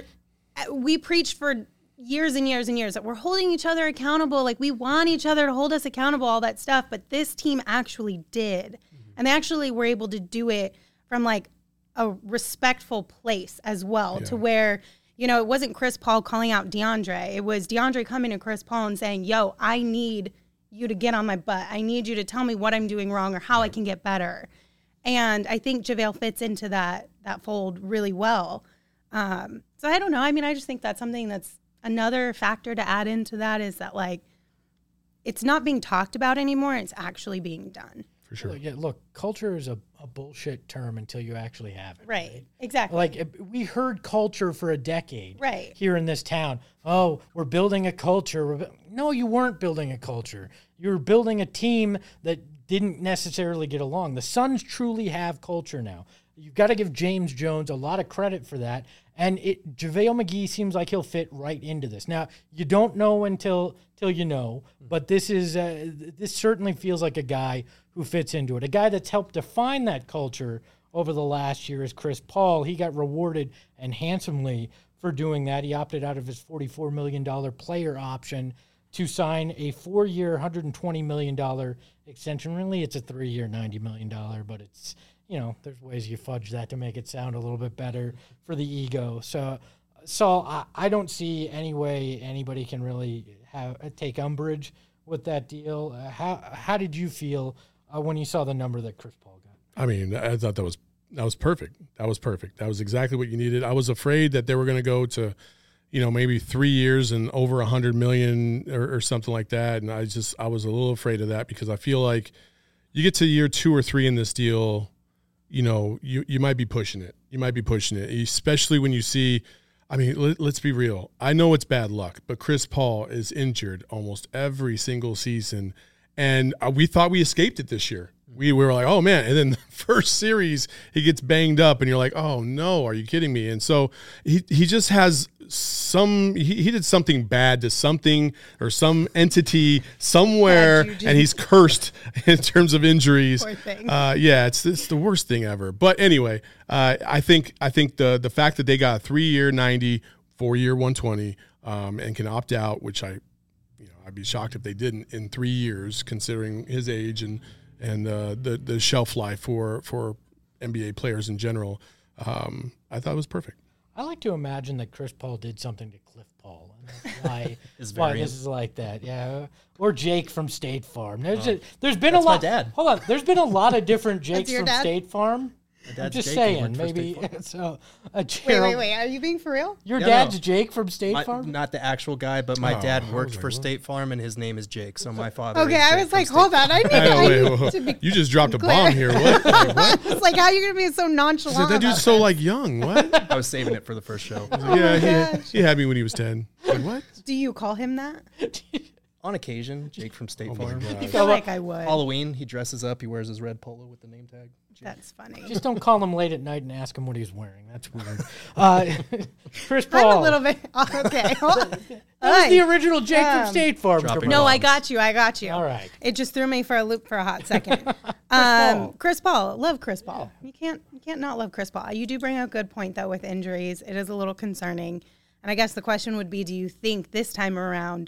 we preached for years and years and years that we're holding each other accountable. Like, we want each other to hold us accountable, all that stuff. But this team actually did. Mm-hmm. And they actually were able to do it from, like, a respectful place as well, Yeah. to where, you know, it wasn't Chris Paul calling out DeAndre. It was DeAndre coming to Chris Paul and saying, yo, I need you to get on my butt. I need you to tell me what I'm doing wrong or how I can get better. And I think JaVale fits into that that fold really well. Um, so I don't know. I mean, I just think that's something that's another factor to add into that, is that, like, it's not being talked about anymore. It's actually being done. For sure. Look, yeah, look, culture is a, a bullshit term until you actually have it. Right. Exactly. Like, it- we heard culture for a decade Right. here in this town. Oh, we're building a culture. We're bu- No, you weren't building a culture. You were building a team that didn't necessarily get along. The Suns truly have culture now. You've got to give James Jones a lot of credit for that. And it, JaVale McGee seems like he'll fit right into this. Now, you don't know until till you know, but this is uh, this certainly feels like a guy who fits into it. A guy that's helped define that culture over the last year is Chris Paul. He got rewarded and handsomely for doing that. He opted out of his forty-four million dollars player option to sign a four-year, one hundred twenty million dollars extension. Really, it's a three-year, ninety million dollars, but it's, you know, there's ways you fudge that to make it sound a little bit better for the ego. So, Saul, I, I don't see any way anybody can really have take umbrage with that deal. Uh, how how did you feel uh, when you saw the number that Chris Paul got? I mean, I thought that was that was perfect. That was perfect. That was exactly what you needed. I was afraid that they were going to go to, you know, maybe three years and over a hundred million or, or something like that. And I just I was a little afraid of that because I feel like you get to year two or three in this deal, you know, you, you might be pushing it. You might be pushing it, especially when you see, I mean, let, let's be real. I know it's bad luck, but Chris Paul is injured almost every single season. And we thought we escaped it this year. We, we were like, oh, man. And then the first series, he gets banged up, and you're like, oh, no, are you kidding me? And so he, he just has some – he he did something bad to something or some entity somewhere, and he's cursed in terms of injuries. Poor thing. Uh, yeah, it's it's the worst thing ever. But anyway, uh, I think I think the the fact that they got a three-year ninety, four-year one twenty, um, and can opt out, which I – you know, I'd be shocked if they didn't in three years, considering his age and and uh, the the shelf life for for N B A players in general. Um, I thought it was perfect. I like to imagine that Chris Paul did something to Cliff Paul, and that's why, His why variant. this is like that. Yeah, or Jake from State Farm. There's a, there's been That's a my lot. dad. Hold on, there's been a lot of different Jakes your from dad? State Farm. My I'm dad's just Jake, he saying, worked for maybe. State Farm. So, uh, Wait, Gerald, wait, wait. Are you being for real? Your Yeah, dad's no. Jake from State My- Farm. not the actual guy, but my Oh, dad I worked was for like, what? State Farm, and his name is Jake. So my father. Okay, is I Jake was from like, State hold on. I need, I know, I wait, need whoa. to be You just dropped a clear. bomb here. What? Like, what? It's like, how are you going to be so nonchalant? That dude's about so this? like young. What? I was saving it for the first show. Yeah, he, he had me when he was ten. Like, what? Do you call him that? On occasion, Jake from State Oh my Farm. God. I feel like I would. Halloween, he dresses up. He wears his red polo with the name tag. Jake. That's funny. Just don't call him late at night and ask him what he's wearing. That's weird. Uh, Chris Paul. I'm a little bit okay. Hold on. That was the original Jake Um, from State Farm. dropping No, I bombs. got you. I got you. All right. It just threw me for a loop for a hot second. um, Paul. Chris Paul, love Chris Paul. You can't you can't not love Chris Paul. You do bring up a good point though with injuries. It is a little concerning. And I guess the question would be, do you think this time around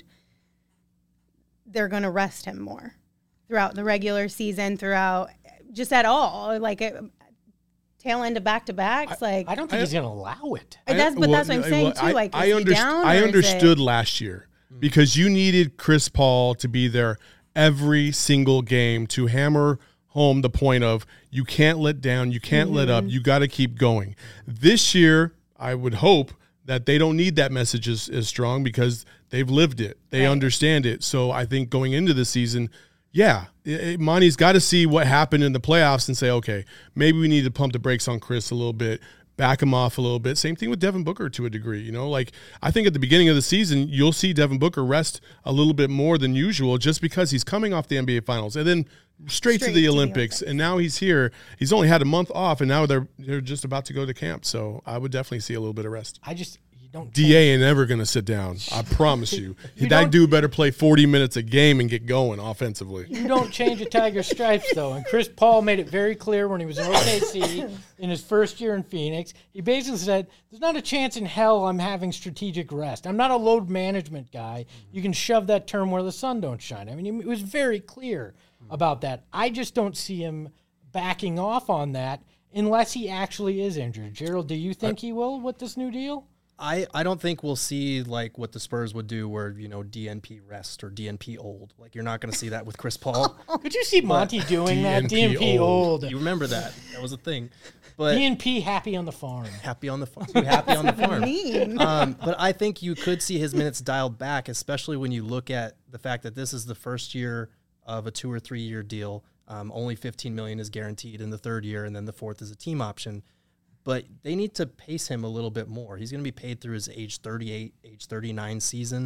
they're going to rest him more throughout the regular season, throughout just at all, like a, tail end of back to backs? Like I don't think he's going to allow it. that's, but well, that's what I'm saying well, too. I, Like, I, is he underst- down, I or is understood it- last year because you needed Chris Paul to be there every single game to hammer home the point of you can't let down, you can't let Mm-hmm. up, you got to keep going. This year, I would hope that they don't need that message as, as strong because they've lived it. They Right. understand it. So I think going into the season, yeah, it- it- Monty's got to see what happened in the playoffs and say, okay, maybe we need to pump the brakes on Chris a little bit, back him off a little bit. Same thing with Devin Booker to a degree. You know, like I think at the beginning of the season, you'll see Devin Booker rest a little bit more than usual just because he's coming off the N B A Finals and then straight, Straight to the to the Olympics. Olympics. And now he's here. He's only had a month off, and now they're they're just about to go to camp. So I would definitely see a little bit of rest. I just you don't. D A ain't ever going to sit down. I promise you. You that don't- dude better play forty minutes a game and get going offensively. You don't change a tiger's stripes, though. And Chris Paul made it very clear when he was in O K C in his first year in Phoenix. He basically said, there's not a chance in hell I'm having strategic rest. I'm not a load management guy. You can shove that term where the sun don't shine. I mean, he was very clear about that. I just don't see him backing off on that unless he actually is injured. Gerald, do you think he will with this new deal? I, I don't think we'll see like what the Spurs would do where, you know, D N P rest or D N P old. Like you're not going to see that with Chris Paul. Could you see Monty doing that? D D N N P P old. old. You remember that. That was a thing. But D N P happy on the farm. happy on the farm. Too happy on the farm. Mean. Um, but I think you could see his minutes dialed back, especially when you look at the fact that this is the first year of a two or three year deal. Um, only fifteen million is guaranteed in the third year, and then the fourth is a team option. But they need to pace him a little bit more. He's going to be paid through his age thirty-eight, age thirty-nine season.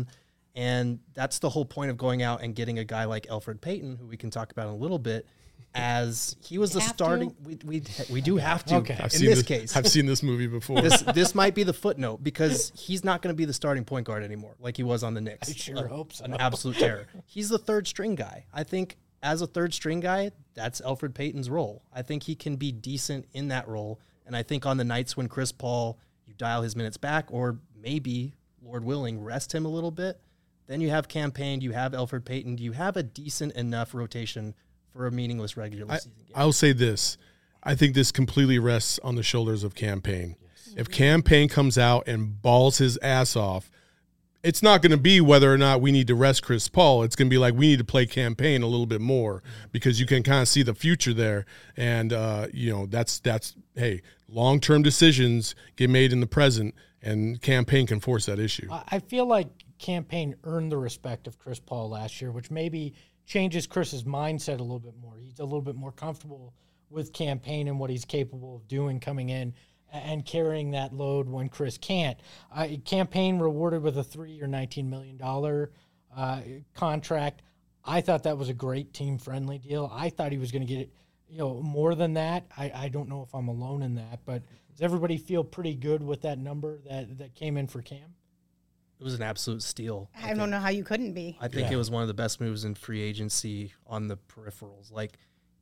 And that's the whole point of going out and getting a guy like Elfrid Payton, who we can talk about in a little bit, as he was the have starting. to? We, we we do have to. Okay. I've In seen this this case, I've seen this movie before. this this might be the footnote because he's not going to be the starting point guard anymore, like he was on the Knicks. I sure A- hope so. An absolute terror. He's the third string guy. I think as a third string guy, that's Elfrid Payton's role. I think he can be decent in that role, and I think on the nights when Chris Paul, you dial his minutes back, or maybe Lord willing, rest him a little bit. Then you have Cam Payne, you have Elfrid Payton, you have a decent enough rotation for a meaningless regular I, season game. I'll say this. I think this completely rests on the shoulders of Cam Payne. Yes. If Cam Payne comes out and balls his ass off, it's not going to be whether or not we need to rest Chris Paul. It's going to be like we need to play Cam Payne a little bit more because you can kind of see the future there. And, uh, you know, that's, that's hey, long-term decisions get made in the present, and Cam Payne can force that issue. I feel like Cam Payne earned the respect of Chris Paul last year, which maybe changes Chris's mindset a little bit more. He's a little bit more comfortable with Cam Payne and what he's capable of doing coming in and carrying that load when Chris can't. Uh, Cam Payne rewarded with a three-year, nineteen million dollars uh, contract. I thought that was a great team-friendly deal. I thought he was going to get, you know, more than that. I, I don't know if I'm alone in that, but does everybody feel pretty good with that number that, that came in for Cam? It was an absolute steal. I, I don't know how you couldn't be. I think Yeah. it was one of the best moves in free agency on the peripherals. Like,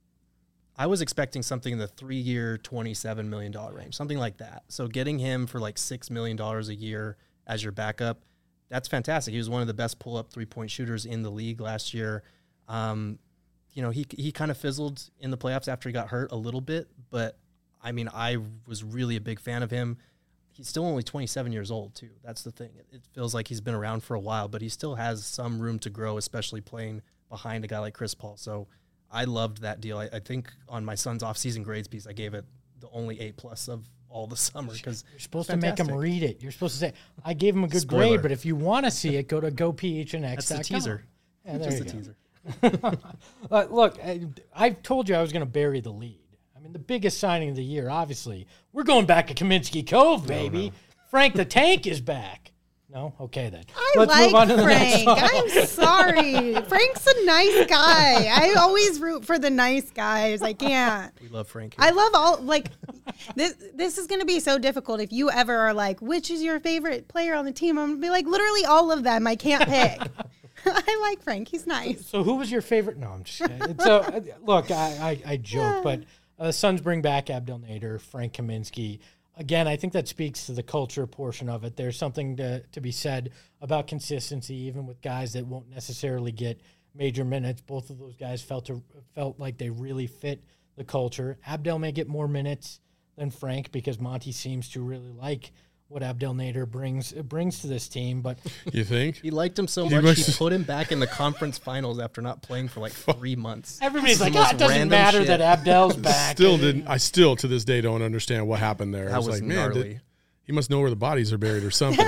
I was expecting something in the three-year, twenty-seven million dollars range, something like that. So getting him for like six million dollars a year as your backup, that's fantastic. He was one of the best pull-up three-point shooters in the league last year. Um, you know, he he kind of fizzled in the playoffs after he got hurt a little bit, but, I mean, I was really a big fan of him. He's still only twenty-seven years old, too. That's the thing. It, it feels like he's been around for a while, but he still has some room to grow, especially playing behind a guy like Chris Paul. So I loved that deal. I, I think on my son's off-season grades piece, I gave it the only A-plus of all the summer because You're supposed to make him read it. You're supposed to say, I gave him a good Spoiler. grade, but if you want to see it, go to go P H N X dot com. That's the teaser. Yeah, there Just you a go. teaser. Uh, look, I, I told you I was going to bury the lead. I mean, the biggest signing of the year, obviously. We're going back to Kaminsky Cove, baby. No, no. Frank the Tank is back. No? Okay, then. I Let's like move on to the next Frank. song. I'm sorry. Frank's a nice guy. I always root for the nice guys. I can't. We love Frank here. I love all, like, this This is going to be so difficult if you ever are like, which is your favorite player on the team? I'm going to be like, literally all of them. I can't pick. I like Frank. He's nice. So who was your favorite? No, I'm just kidding. So, uh, look, I, I, I joke, but uh, Suns bring back Abdel Nader, Frank Kaminsky. Again, I think that speaks to the culture portion of it. There's something to, to be said about consistency, even with guys that won't necessarily get major minutes. Both of those guys felt to, felt like they really fit the culture. Abdel may get more minutes than Frank because Monty seems to really like what Abdel Nader brings brings to this team. But You think? He liked him so He much, must- he put him back in the conference finals after not playing for like three months. everybody's The like, most oh, it doesn't random matter shit. that Abdel's back. Still And- didn't. I still to this day don't understand what happened there. I That was, was like, man, gnarly. did, he must know where the bodies are buried or something.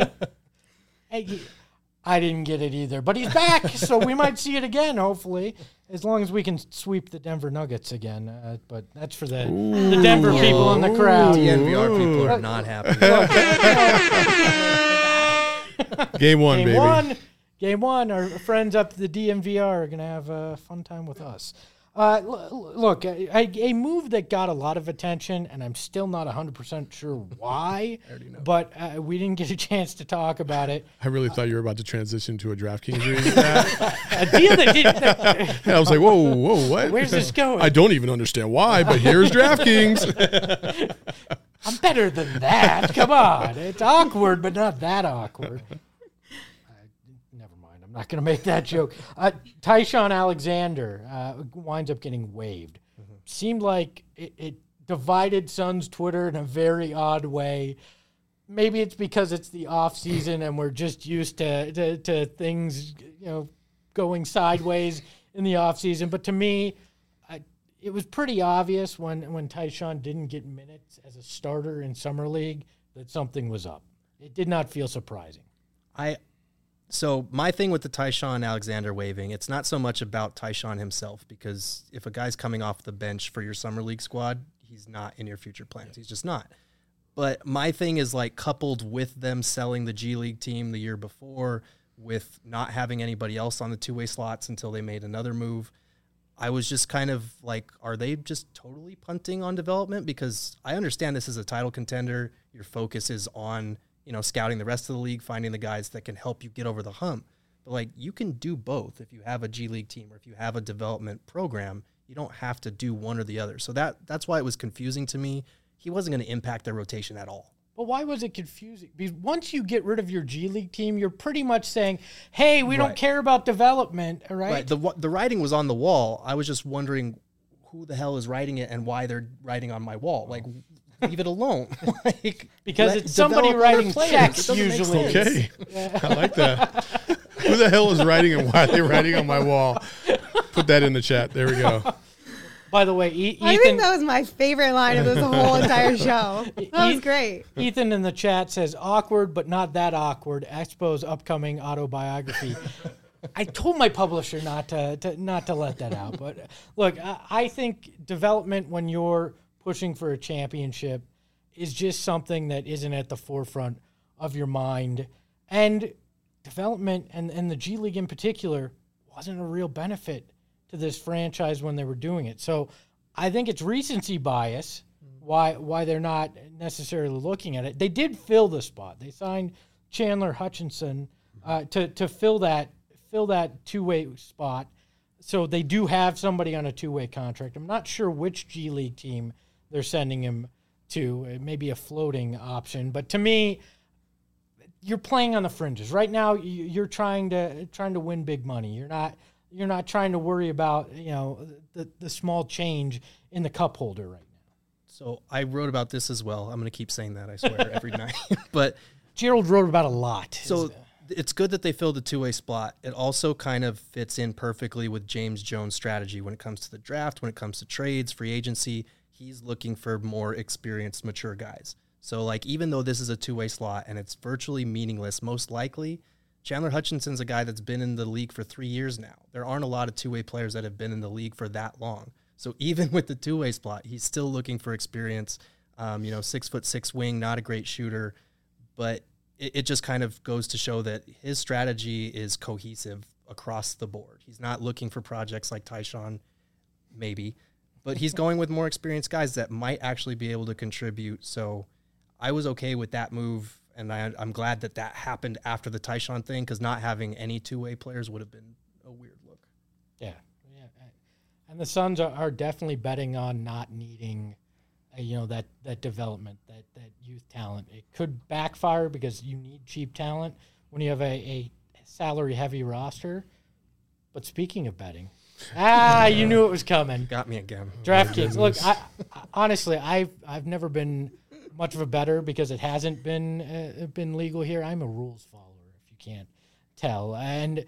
Hey, he- I didn't get it either, but he's back, so we might see it again, hopefully, as long as we can sweep the Denver Nuggets again. Uh, but that's for the, the Denver people in the crowd. D N V R people are not happy. Game one, Game baby. one, game one. Our friends up at the D M V R are going to have a fun time with us. Uh, l- look, a, a move that got a lot of attention, and I'm still not one hundred percent sure why, but uh, we didn't get a chance to talk about it. I really thought you were about to transition to a DraftKings reading. That. A deal that didn't. And I was like, whoa, whoa, what? Where's this going? I don't even understand why, but here's DraftKings. I'm better than that. Come on. It's awkward, but not that awkward. Uh, never mind. I'm not going to make that joke. Uh, Tyshawn Alexander uh, winds up getting waived. Mm-hmm. Seemed like it, it divided Suns Twitter in a very odd way. Maybe it's because it's the off season and we're just used to, to, to things, you know, going sideways in the off season. But to me, I, it was pretty obvious when, when Tyshawn didn't get minutes as a starter in Summer League that something was up. It did not feel surprising. I so my thing with the Tyshawn Alexander waiving, it's not so much about Tyshawn himself, because if a guy's coming off the bench for your Summer League squad, he's not in your future plans. He's just not. But my thing is, like, coupled with them selling the G League team the year before, with not having anybody else on the two-way slots until they made another move. I was just kind of like, are they just totally punting on development? Because I understand this is a title contender. Your focus is on, you know, scouting the rest of the league, finding the guys that can help you get over the hump. But, like, you can do both if you have a G League team or if you have a development program. You don't have to do one or the other. So that that's why it was confusing to me. He wasn't going to impact their rotation at all. But why was it confusing? Because once you get rid of your G League team, you're pretty much saying, hey, we Right. don't care about development, all right? Right. The the writing was on the wall. I was just wondering who the hell is writing it and why they're writing on my wall. Like, leave it alone. Like, Because let- it's somebody develop other writing players. checks It doesn't make usually. sense. Okay, I like that. Who the hell is writing and why are they writing on my wall? Put that in the chat. There we go. By the way, e- I Ethan, think that was my favorite line of this whole entire show. That was E- great. Ethan in the chat says, awkward, but not that awkward. Expo's upcoming autobiography. I told my publisher not to, to not to let that out. But look, I, I think development when you're pushing for a championship is just something that isn't at the forefront of your mind. And development and, and the G League in particular wasn't a real benefit to this franchise when they were doing it. So I think it's recency bias why why they're not necessarily looking at it. They did fill the spot. They signed Chandler Hutchinson uh, to to fill that fill that two-way spot. So they do have somebody on a two-way contract. I'm not sure which G League team they're sending him to. It may be a floating option, but to me, you're playing on the fringes right now. you- You're trying to trying to win big money. You're not you're not trying to worry about you know the the small change in the cup holder right now. So I wrote about this as well. I'm going to keep saying that, I swear, every night. But Gerald wrote about a lot. so it's good that they filled the two-way spot. It also kind of fits in perfectly with James Jones' strategy when it comes to the draft, when it comes to trades, free agency. He's looking for more experienced, mature guys. So, like, even though this is a two-way slot and it's virtually meaningless, most likely, Chandler Hutchinson's a guy that's been in the league for three years now. There aren't a lot of two-way players that have been in the league for that long. So even with the two-way spot, he's still looking for experience. Um, you know, six foot six wing, not a great shooter, but it, it just kind of goes to show that his strategy is cohesive across the board. He's not looking for projects like Tyshawn, maybe, but he's going with more experienced guys that might actually be able to contribute. So I was okay with that move. And I, I'm glad that that happened after the Tyshawn thing, because not having any two-way players would have been a weird look. Yeah, yeah. And the Suns are, are definitely betting on not needing, uh, you know, that that development, that that youth talent. It could backfire because you need cheap talent when you have a, a salary-heavy roster. But speaking of betting, ah, you knew it was coming. Got me again. DraftKings. Look, I, I, honestly, I've I've never been much of a bettor because it hasn't been uh, been legal here. I'm a rules follower, if you can't tell. And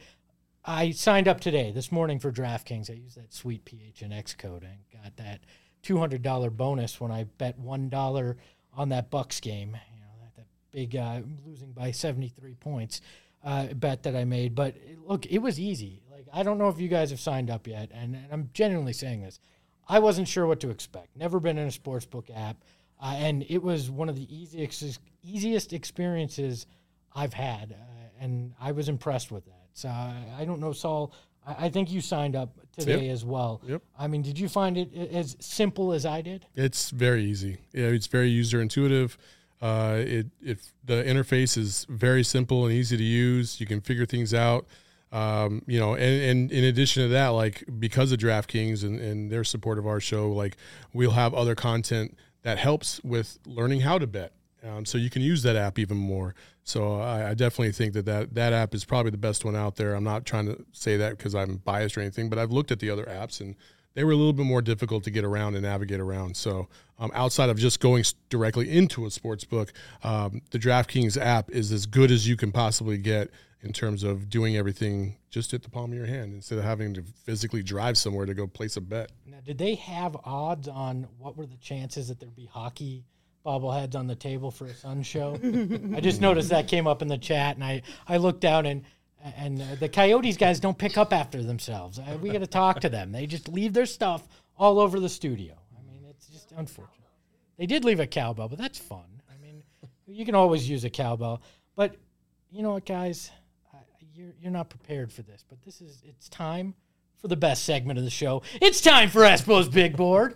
I signed up today, this morning, for DraftKings. I used that sweet P H N X code and got that two hundred dollars bonus when I bet one dollar on that Bucks game. You know, that, that big uh, losing by seventy-three points uh, bet that I made. But look, it was easy. Like, I don't know if you guys have signed up yet, and, and I'm genuinely saying this. I wasn't sure what to expect. Never been in a sportsbook app. Uh, and it was one of the easiest easiest experiences I've had, uh, and I was impressed with that. So uh, I don't know, Saul. I, I think you signed up today Yep. as well. Yep. I mean, did you find it as simple as I did? It's very easy. Yeah, it's very user intuitive. Uh, it it the interface is very simple and easy to use. You can figure things out. Um, you know, and, and in addition to that, like, because of DraftKings and, and their support of our show, like, we'll have other content that helps with learning how to bet. Um, so you can use that app even more. So I, I definitely think that, that that app is probably the best one out there. I'm not trying to say that because I'm biased or anything, but I've looked at the other apps and they were a little bit more difficult to get around and navigate around. So um, outside of just going s- directly into a sports book, um, the DraftKings app is as good as you can possibly get in terms of doing everything just at the palm of your hand instead of having to physically drive somewhere to go place a bet. Now, did they have odds on what were the chances that there'd be hockey bobbleheads on the table for a Sun show? I just noticed that came up in the chat, and I, I looked down, and and uh, the Coyotes guys don't pick up after themselves. Uh, we got to talk to them. They just leave their stuff all over the studio. I mean, it's just unfortunate. They did leave a cowbell, but that's fun. I mean, you can always use a cowbell. But you know what, guys? you're you're not prepared for this, but this is it's time for the best segment of the show. It's time for Espo's Big Board.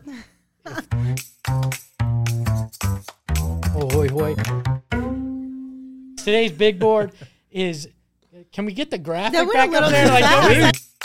Oh, hoy, hoy. Today's big board is. Can we get the graphic That went back a little up there? too Like, fast.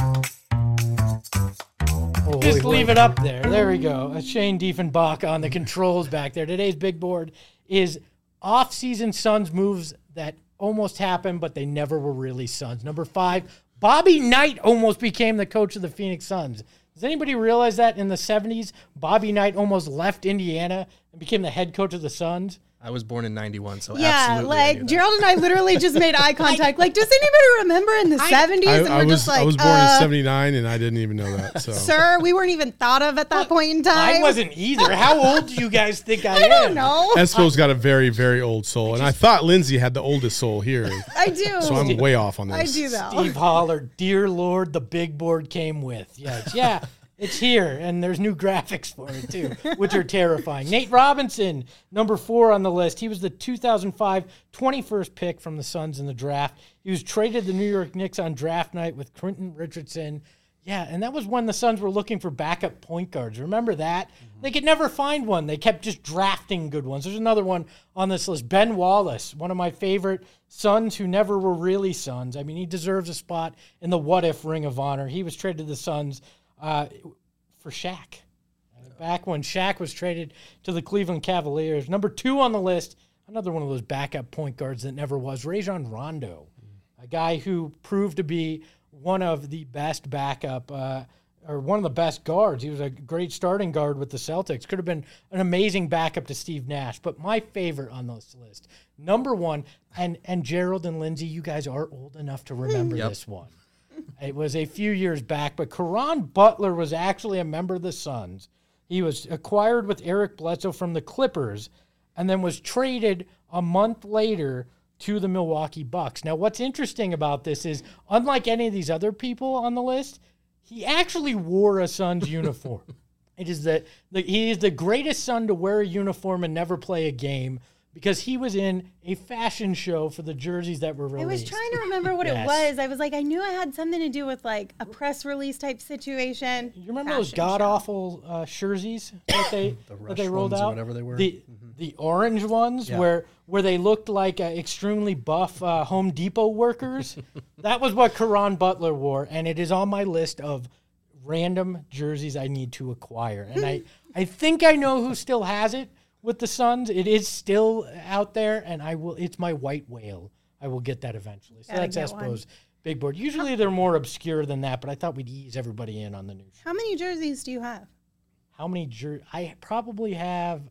oh, just leave it up there. There we go. Uh, Shane Diefenbach on the controls back there. Today's big board is off-season Suns moves that almost happened, but they never were really Suns. Number five, Bobby Knight almost became the coach of the Phoenix Suns. Does anybody realize that in the seventies, Bobby Knight almost left Indiana and became the head coach of the Suns? I was born in ninety-one, so Yeah, absolutely. I like knew that. Gerald and I literally just made eye contact. Like, does anybody remember in the seventies? I, And I we're was just like, I was born uh, in seventy-nine, and I didn't even know that. So sir, we weren't even thought of at that point in time. I wasn't either. How old do you guys think I, I am? don't know. Espo's got a very, very old soul, and I thought Lindsay had the oldest soul here, I do. so I'm way off on this. I do though. Steve Holler, dear Lord, the big board came with. Yes, yeah, it's here, and there's new graphics for it too, which are terrifying. Nate Robinson, number four on the list. He was the two thousand five twenty-first pick from the Suns in the draft. He was traded to the New York Knicks on draft night with Quentin Richardson. Yeah, and that was when the Suns were looking for backup point guards. Remember that? Mm-hmm. They could never find one. They kept just drafting good ones. There's another one on this list. Ben Wallace, one of my favorite Suns who never were really Suns. I mean, he deserves a spot in the what-if Ring of Honor. He was traded to the Suns uh, for Shaq. Back when Shaq was traded to the Cleveland Cavaliers. Number two on the list, another one of those backup point guards that never was, Rajon Rondo, a guy who proved to be one of the best backup, uh, or one of the best guards. He was a great starting guard with the Celtics. Could have been an amazing backup to Steve Nash. But my favorite on this list, number one, and, and Gerald and Lindsay, you guys are old enough to remember Yep. this one. It was a few years back, but Caron Butler was actually a member of the Suns. He was acquired with Eric Bledsoe from the Clippers and then was traded a month later to the Milwaukee Bucks. Now, what's interesting about this is, unlike any of these other people on the list, he actually wore a Suns uniform. It is the, the he is the greatest Sun to wear a uniform and never play a game because he was in a fashion show for the jerseys that were released. I was trying to remember what Yes. it was. I was like, I knew it had something to do with like a press release type situation. You remember those Fashion god show. awful uh, jerseys that they The that Rush they rolled ones or out? whatever they were? The the orange ones Yeah. where where they looked like uh, extremely buff uh, Home Depot workers. That was what Caron Butler wore, and it is on my list of random jerseys I need to acquire. And I I think I know who still has it with the Suns. It is still out there, and I will. It's my white whale. I will get that eventually. So Gotta that's get one. Espo's big board. Usually they're more obscure than that, but I thought we'd ease everybody in on the news. How many jerseys do you have? How many jer- I probably have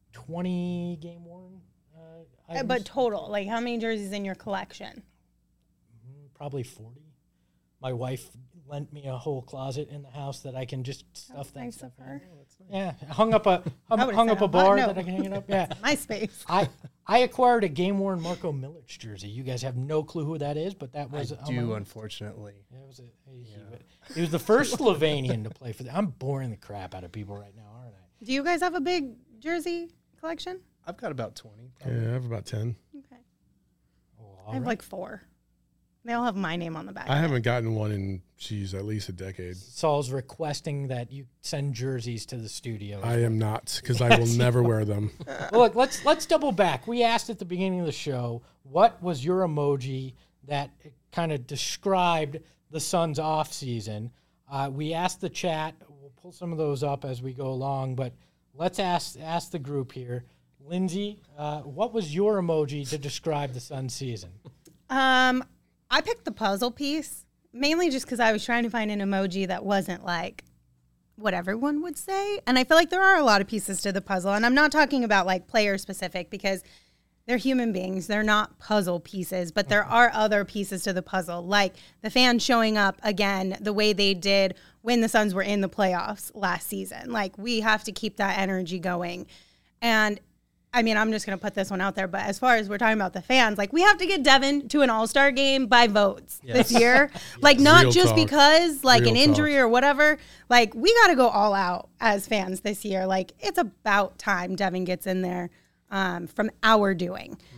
twenty game worn. Uh, Uh, items. But total, like how many jerseys in your collection? Probably forty. My wife lent me a whole closet in the house that I can just stuff that Nice stuff of in. her. Yeah, hung up a hung, I would've hung said up a a bar no. that I can hang it up. Yeah, My space. I I acquired a game worn Marco Milic jersey. You guys have no clue who that is, but that I was on do, my- unfortunately. Yeah, it was a, he, he was the first Slovenian to play for them. I'm boring the crap out of people right now, aren't I? Do you guys have a big jersey collection? I've got about twenty. Yeah, I have about ten. Okay. Oh, I have like four. They all have my name on the back. I haven't gotten one in, geez, at least a decade. Saul's requesting that you send jerseys to the studio. I am not, because I will never wear them. Well, look, let's let's double back. We asked at the beginning of the show, what was your emoji that kind of described the Suns' off season? Uh, we asked the chat. We'll pull some of those up as we go along, but let's ask ask the group here. Lindsay, uh, what was your emoji to describe the Suns' season? Um, I picked the puzzle piece mainly just because I was trying to find an emoji that wasn't like what everyone would say. And I feel like there are a lot of pieces to the puzzle. And I'm not talking about like player specific because they're human beings. They're not puzzle pieces, but there are other pieces to the puzzle, like the fans showing up again the way they did when the Suns were in the playoffs last season. Like we have to keep that energy going. And I mean, I'm just going to put this one out there, but as far as we're talking about the fans, like we have to get Devin to an all-star game by votes Yes. this year. Like not Real just talk. because like Real an injury talk. or whatever. Like we got to go all out as fans this year. Like it's about time Devin gets in there um, from our doing. Mm-hmm.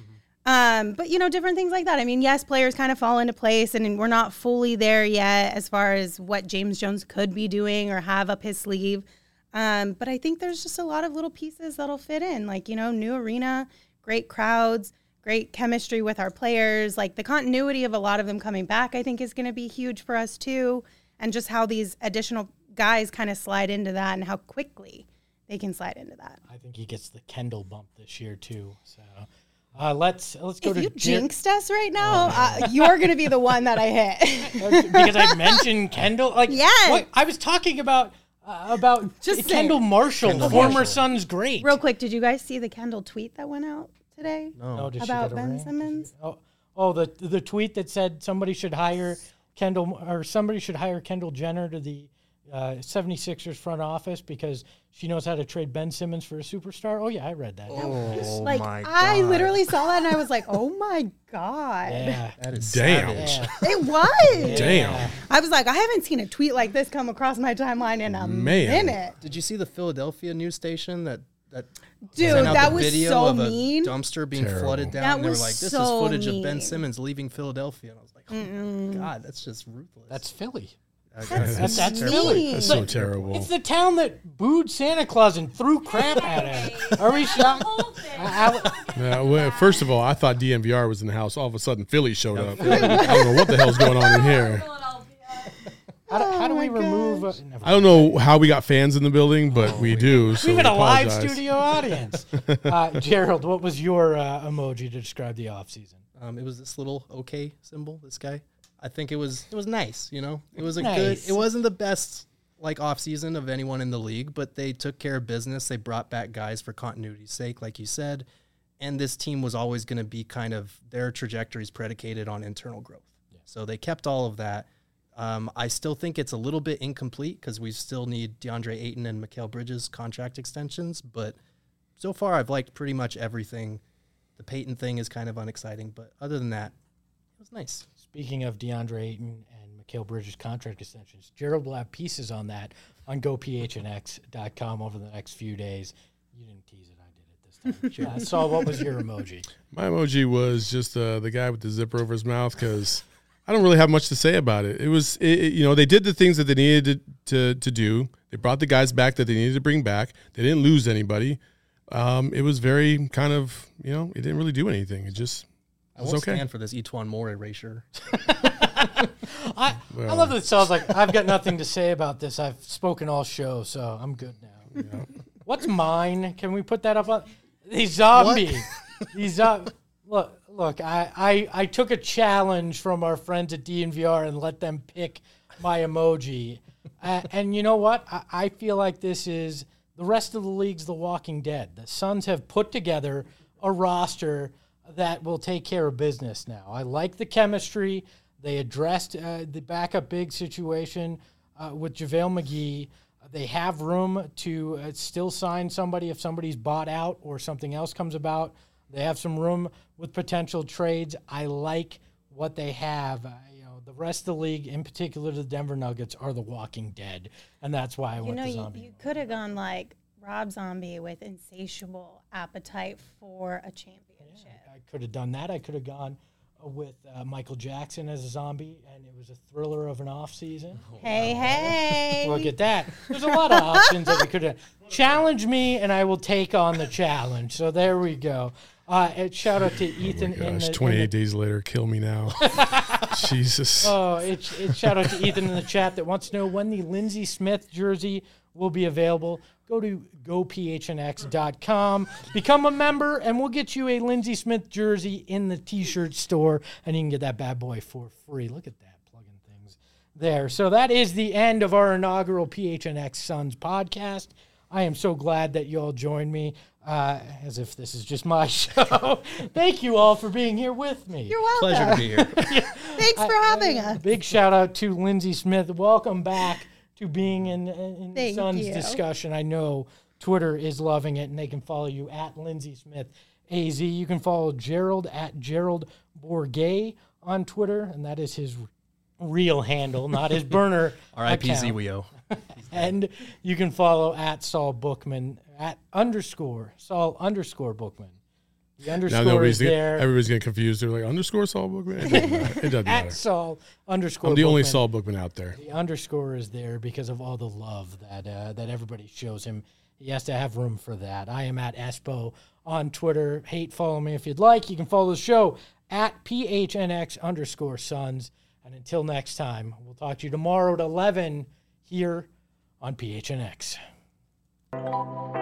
Um, but, you know, different things like that. I mean, yes, players kind of fall into place, and we're not fully there yet as far as what James Jones could be doing or have up his sleeve. Um, but I think there's just a lot of little pieces that'll fit in, like, you know, new arena, great crowds, great chemistry with our players. Like the continuity of a lot of them coming back, I think is going to be huge for us too. And just how these additional guys kind of slide into that and how quickly they can slide into that. I think he gets the Kendall bump this year too. So uh, let's let's go if to you Jer- jinxed us right now, oh. uh, you're going to be the one that I hit. Because I mentioned Kendall. Like, yes. what, I was talking about uh, about Just Kendall saying. Marshall, Kendall former Marshall. Suns great. Real quick, did you guys see the Kendall tweet that went out today? No. Oh, did she About get a Ben ring? Simmons? Oh, oh, the the tweet that said somebody should hire Kendall or somebody should hire Kendall Jenner to the uh, seventy-sixers front office because she knows how to trade Ben Simmons for a superstar. Oh yeah, I read that. Oh Like, my god! I literally saw that and I was like, oh my God. Yeah. That is Damn. savage. Yeah. It was. Damn. I was like, I haven't seen a tweet like this come across my timeline in a Man. minute. Did you see the Philadelphia news station that that Dude, sent out that the was video so of a mean. dumpster being Terrible. flooded down? That and they were was like, "This so is footage of Ben mean. Simmons leaving Philadelphia," and I was like, "Oh my god, that's just ruthless." That's Philly. That's, That's, that's mean. Philly. That's so terrible. It's the town that booed Santa Claus and threw crap at him. Are we shocked? I- I- Yeah, well, first of all, I thought D M V R was in the house. All of a sudden, Philly showed up. I don't know what the hell's going on in here. How do, how do we my remove? Uh, never I don't know how we got fans in the building, but we do. So We we have a live apologize. studio audience. Uh, Gerald, what was your uh, emoji to describe the offseason? Um, it was this little okay symbol. This guy, I think it was it was nice. You know, it was a Nice. good. It wasn't the best like off season of anyone in the league, but they took care of business. They brought back guys for continuity's sake, like you said, and this team was always going to be kind of their trajectories predicated on internal growth. So they kept all of that. Um, I still think it's a little bit incomplete because we still need DeAndre Ayton and Mikal Bridges contract extensions, but so far I've liked pretty much everything. The Peyton thing is kind of unexciting, but other than that, it was nice. Speaking of DeAndre Ayton and Mikal Bridges contract extensions, Gerald will have pieces on that on go p h n x dot com over the next few days. You didn't tease it, I did it this time. uh, Saul, what was your emoji? My emoji was just uh, the guy with the zipper over his mouth because I don't really have much to say about it. It was, it, it- you know, they did the things that they needed to, to to do. They brought the guys back that they needed to bring back. They didn't lose anybody. Um, it was very kind of, you know, it didn't really do anything. It just I was won't okay. stand for this Etwan Moore erasure. I, I Well. love that it sounds like I've got nothing to say about this. I've spoken all show, so I'm good now. What's mine? Can we put that up on the zombie? The zo- look, look. I, I I took a challenge from our friends at D N V R and let them pick my emoji. Uh, and you know what? I, I feel like this is the rest of the league's The Walking Dead. The Suns have put together a roster that will take care of business now. I like the chemistry. They addressed uh, the backup big situation uh, with JaVale McGee. They have room to uh, still sign somebody if somebody's bought out or something else comes about. They have some room with potential trades. I like what they have. Uh, you know, the rest of the league, in particular the Denver Nuggets, are the Walking Dead, and that's why I You went know, to you, zombie. you could have gone like Rob Zombie with insatiable appetite for a championship. I could have done that. I could have gone uh, with uh, Michael Jackson as a zombie, and it was a thriller of an off season. Hey, hey. Look at that. There's a lot of options that we could have. Challenge me, and I will take on the challenge. So there we go. Uh, and shout out to Ethan. in Gosh, the, in twenty-eight the, days later, kill me now. Jesus. Oh, it's it, shout out to Ethan in the chat that wants to know when the Lindsey Smith jersey will be available. Go to go p h n x dot com, become a member, and we'll get you a Lindsey Smith jersey in the T-shirt store, and you can get that bad boy for free. Look at that, plugging things there. So that is the end of our inaugural P H N X Suns podcast. I am so glad that you all joined me, uh, as if this is just my show. Thank you all for being here with me. You're welcome. Pleasure to be here. Thanks for having us. Big shout out to Lindsey Smith. Welcome back to being in, in Thank Suns you. discussion. I know Twitter is loving it, and they can follow you at Lindsey Smith A Z. You can follow Gerald at Gerald Bourget on Twitter, and that is his real handle, not his burner R I P account. Zwio. And you can follow at Saul Bookman at underscore Saul underscore Bookman. The underscore is gonna, there. Everybody's getting confused. They're like, underscore Saul Bookman? It doesn't matter. It doesn't At matter. Saul underscore I'm the only Bookman. Saul Bookman out there. The underscore is there because of all the love that uh, that everybody shows him. He has to have room for that. I am at Espo on Twitter. Hate, follow me if you'd like. You can follow the show at P H N X underscore Suns. And until next time, we'll talk to you tomorrow at eleven here on P H N X.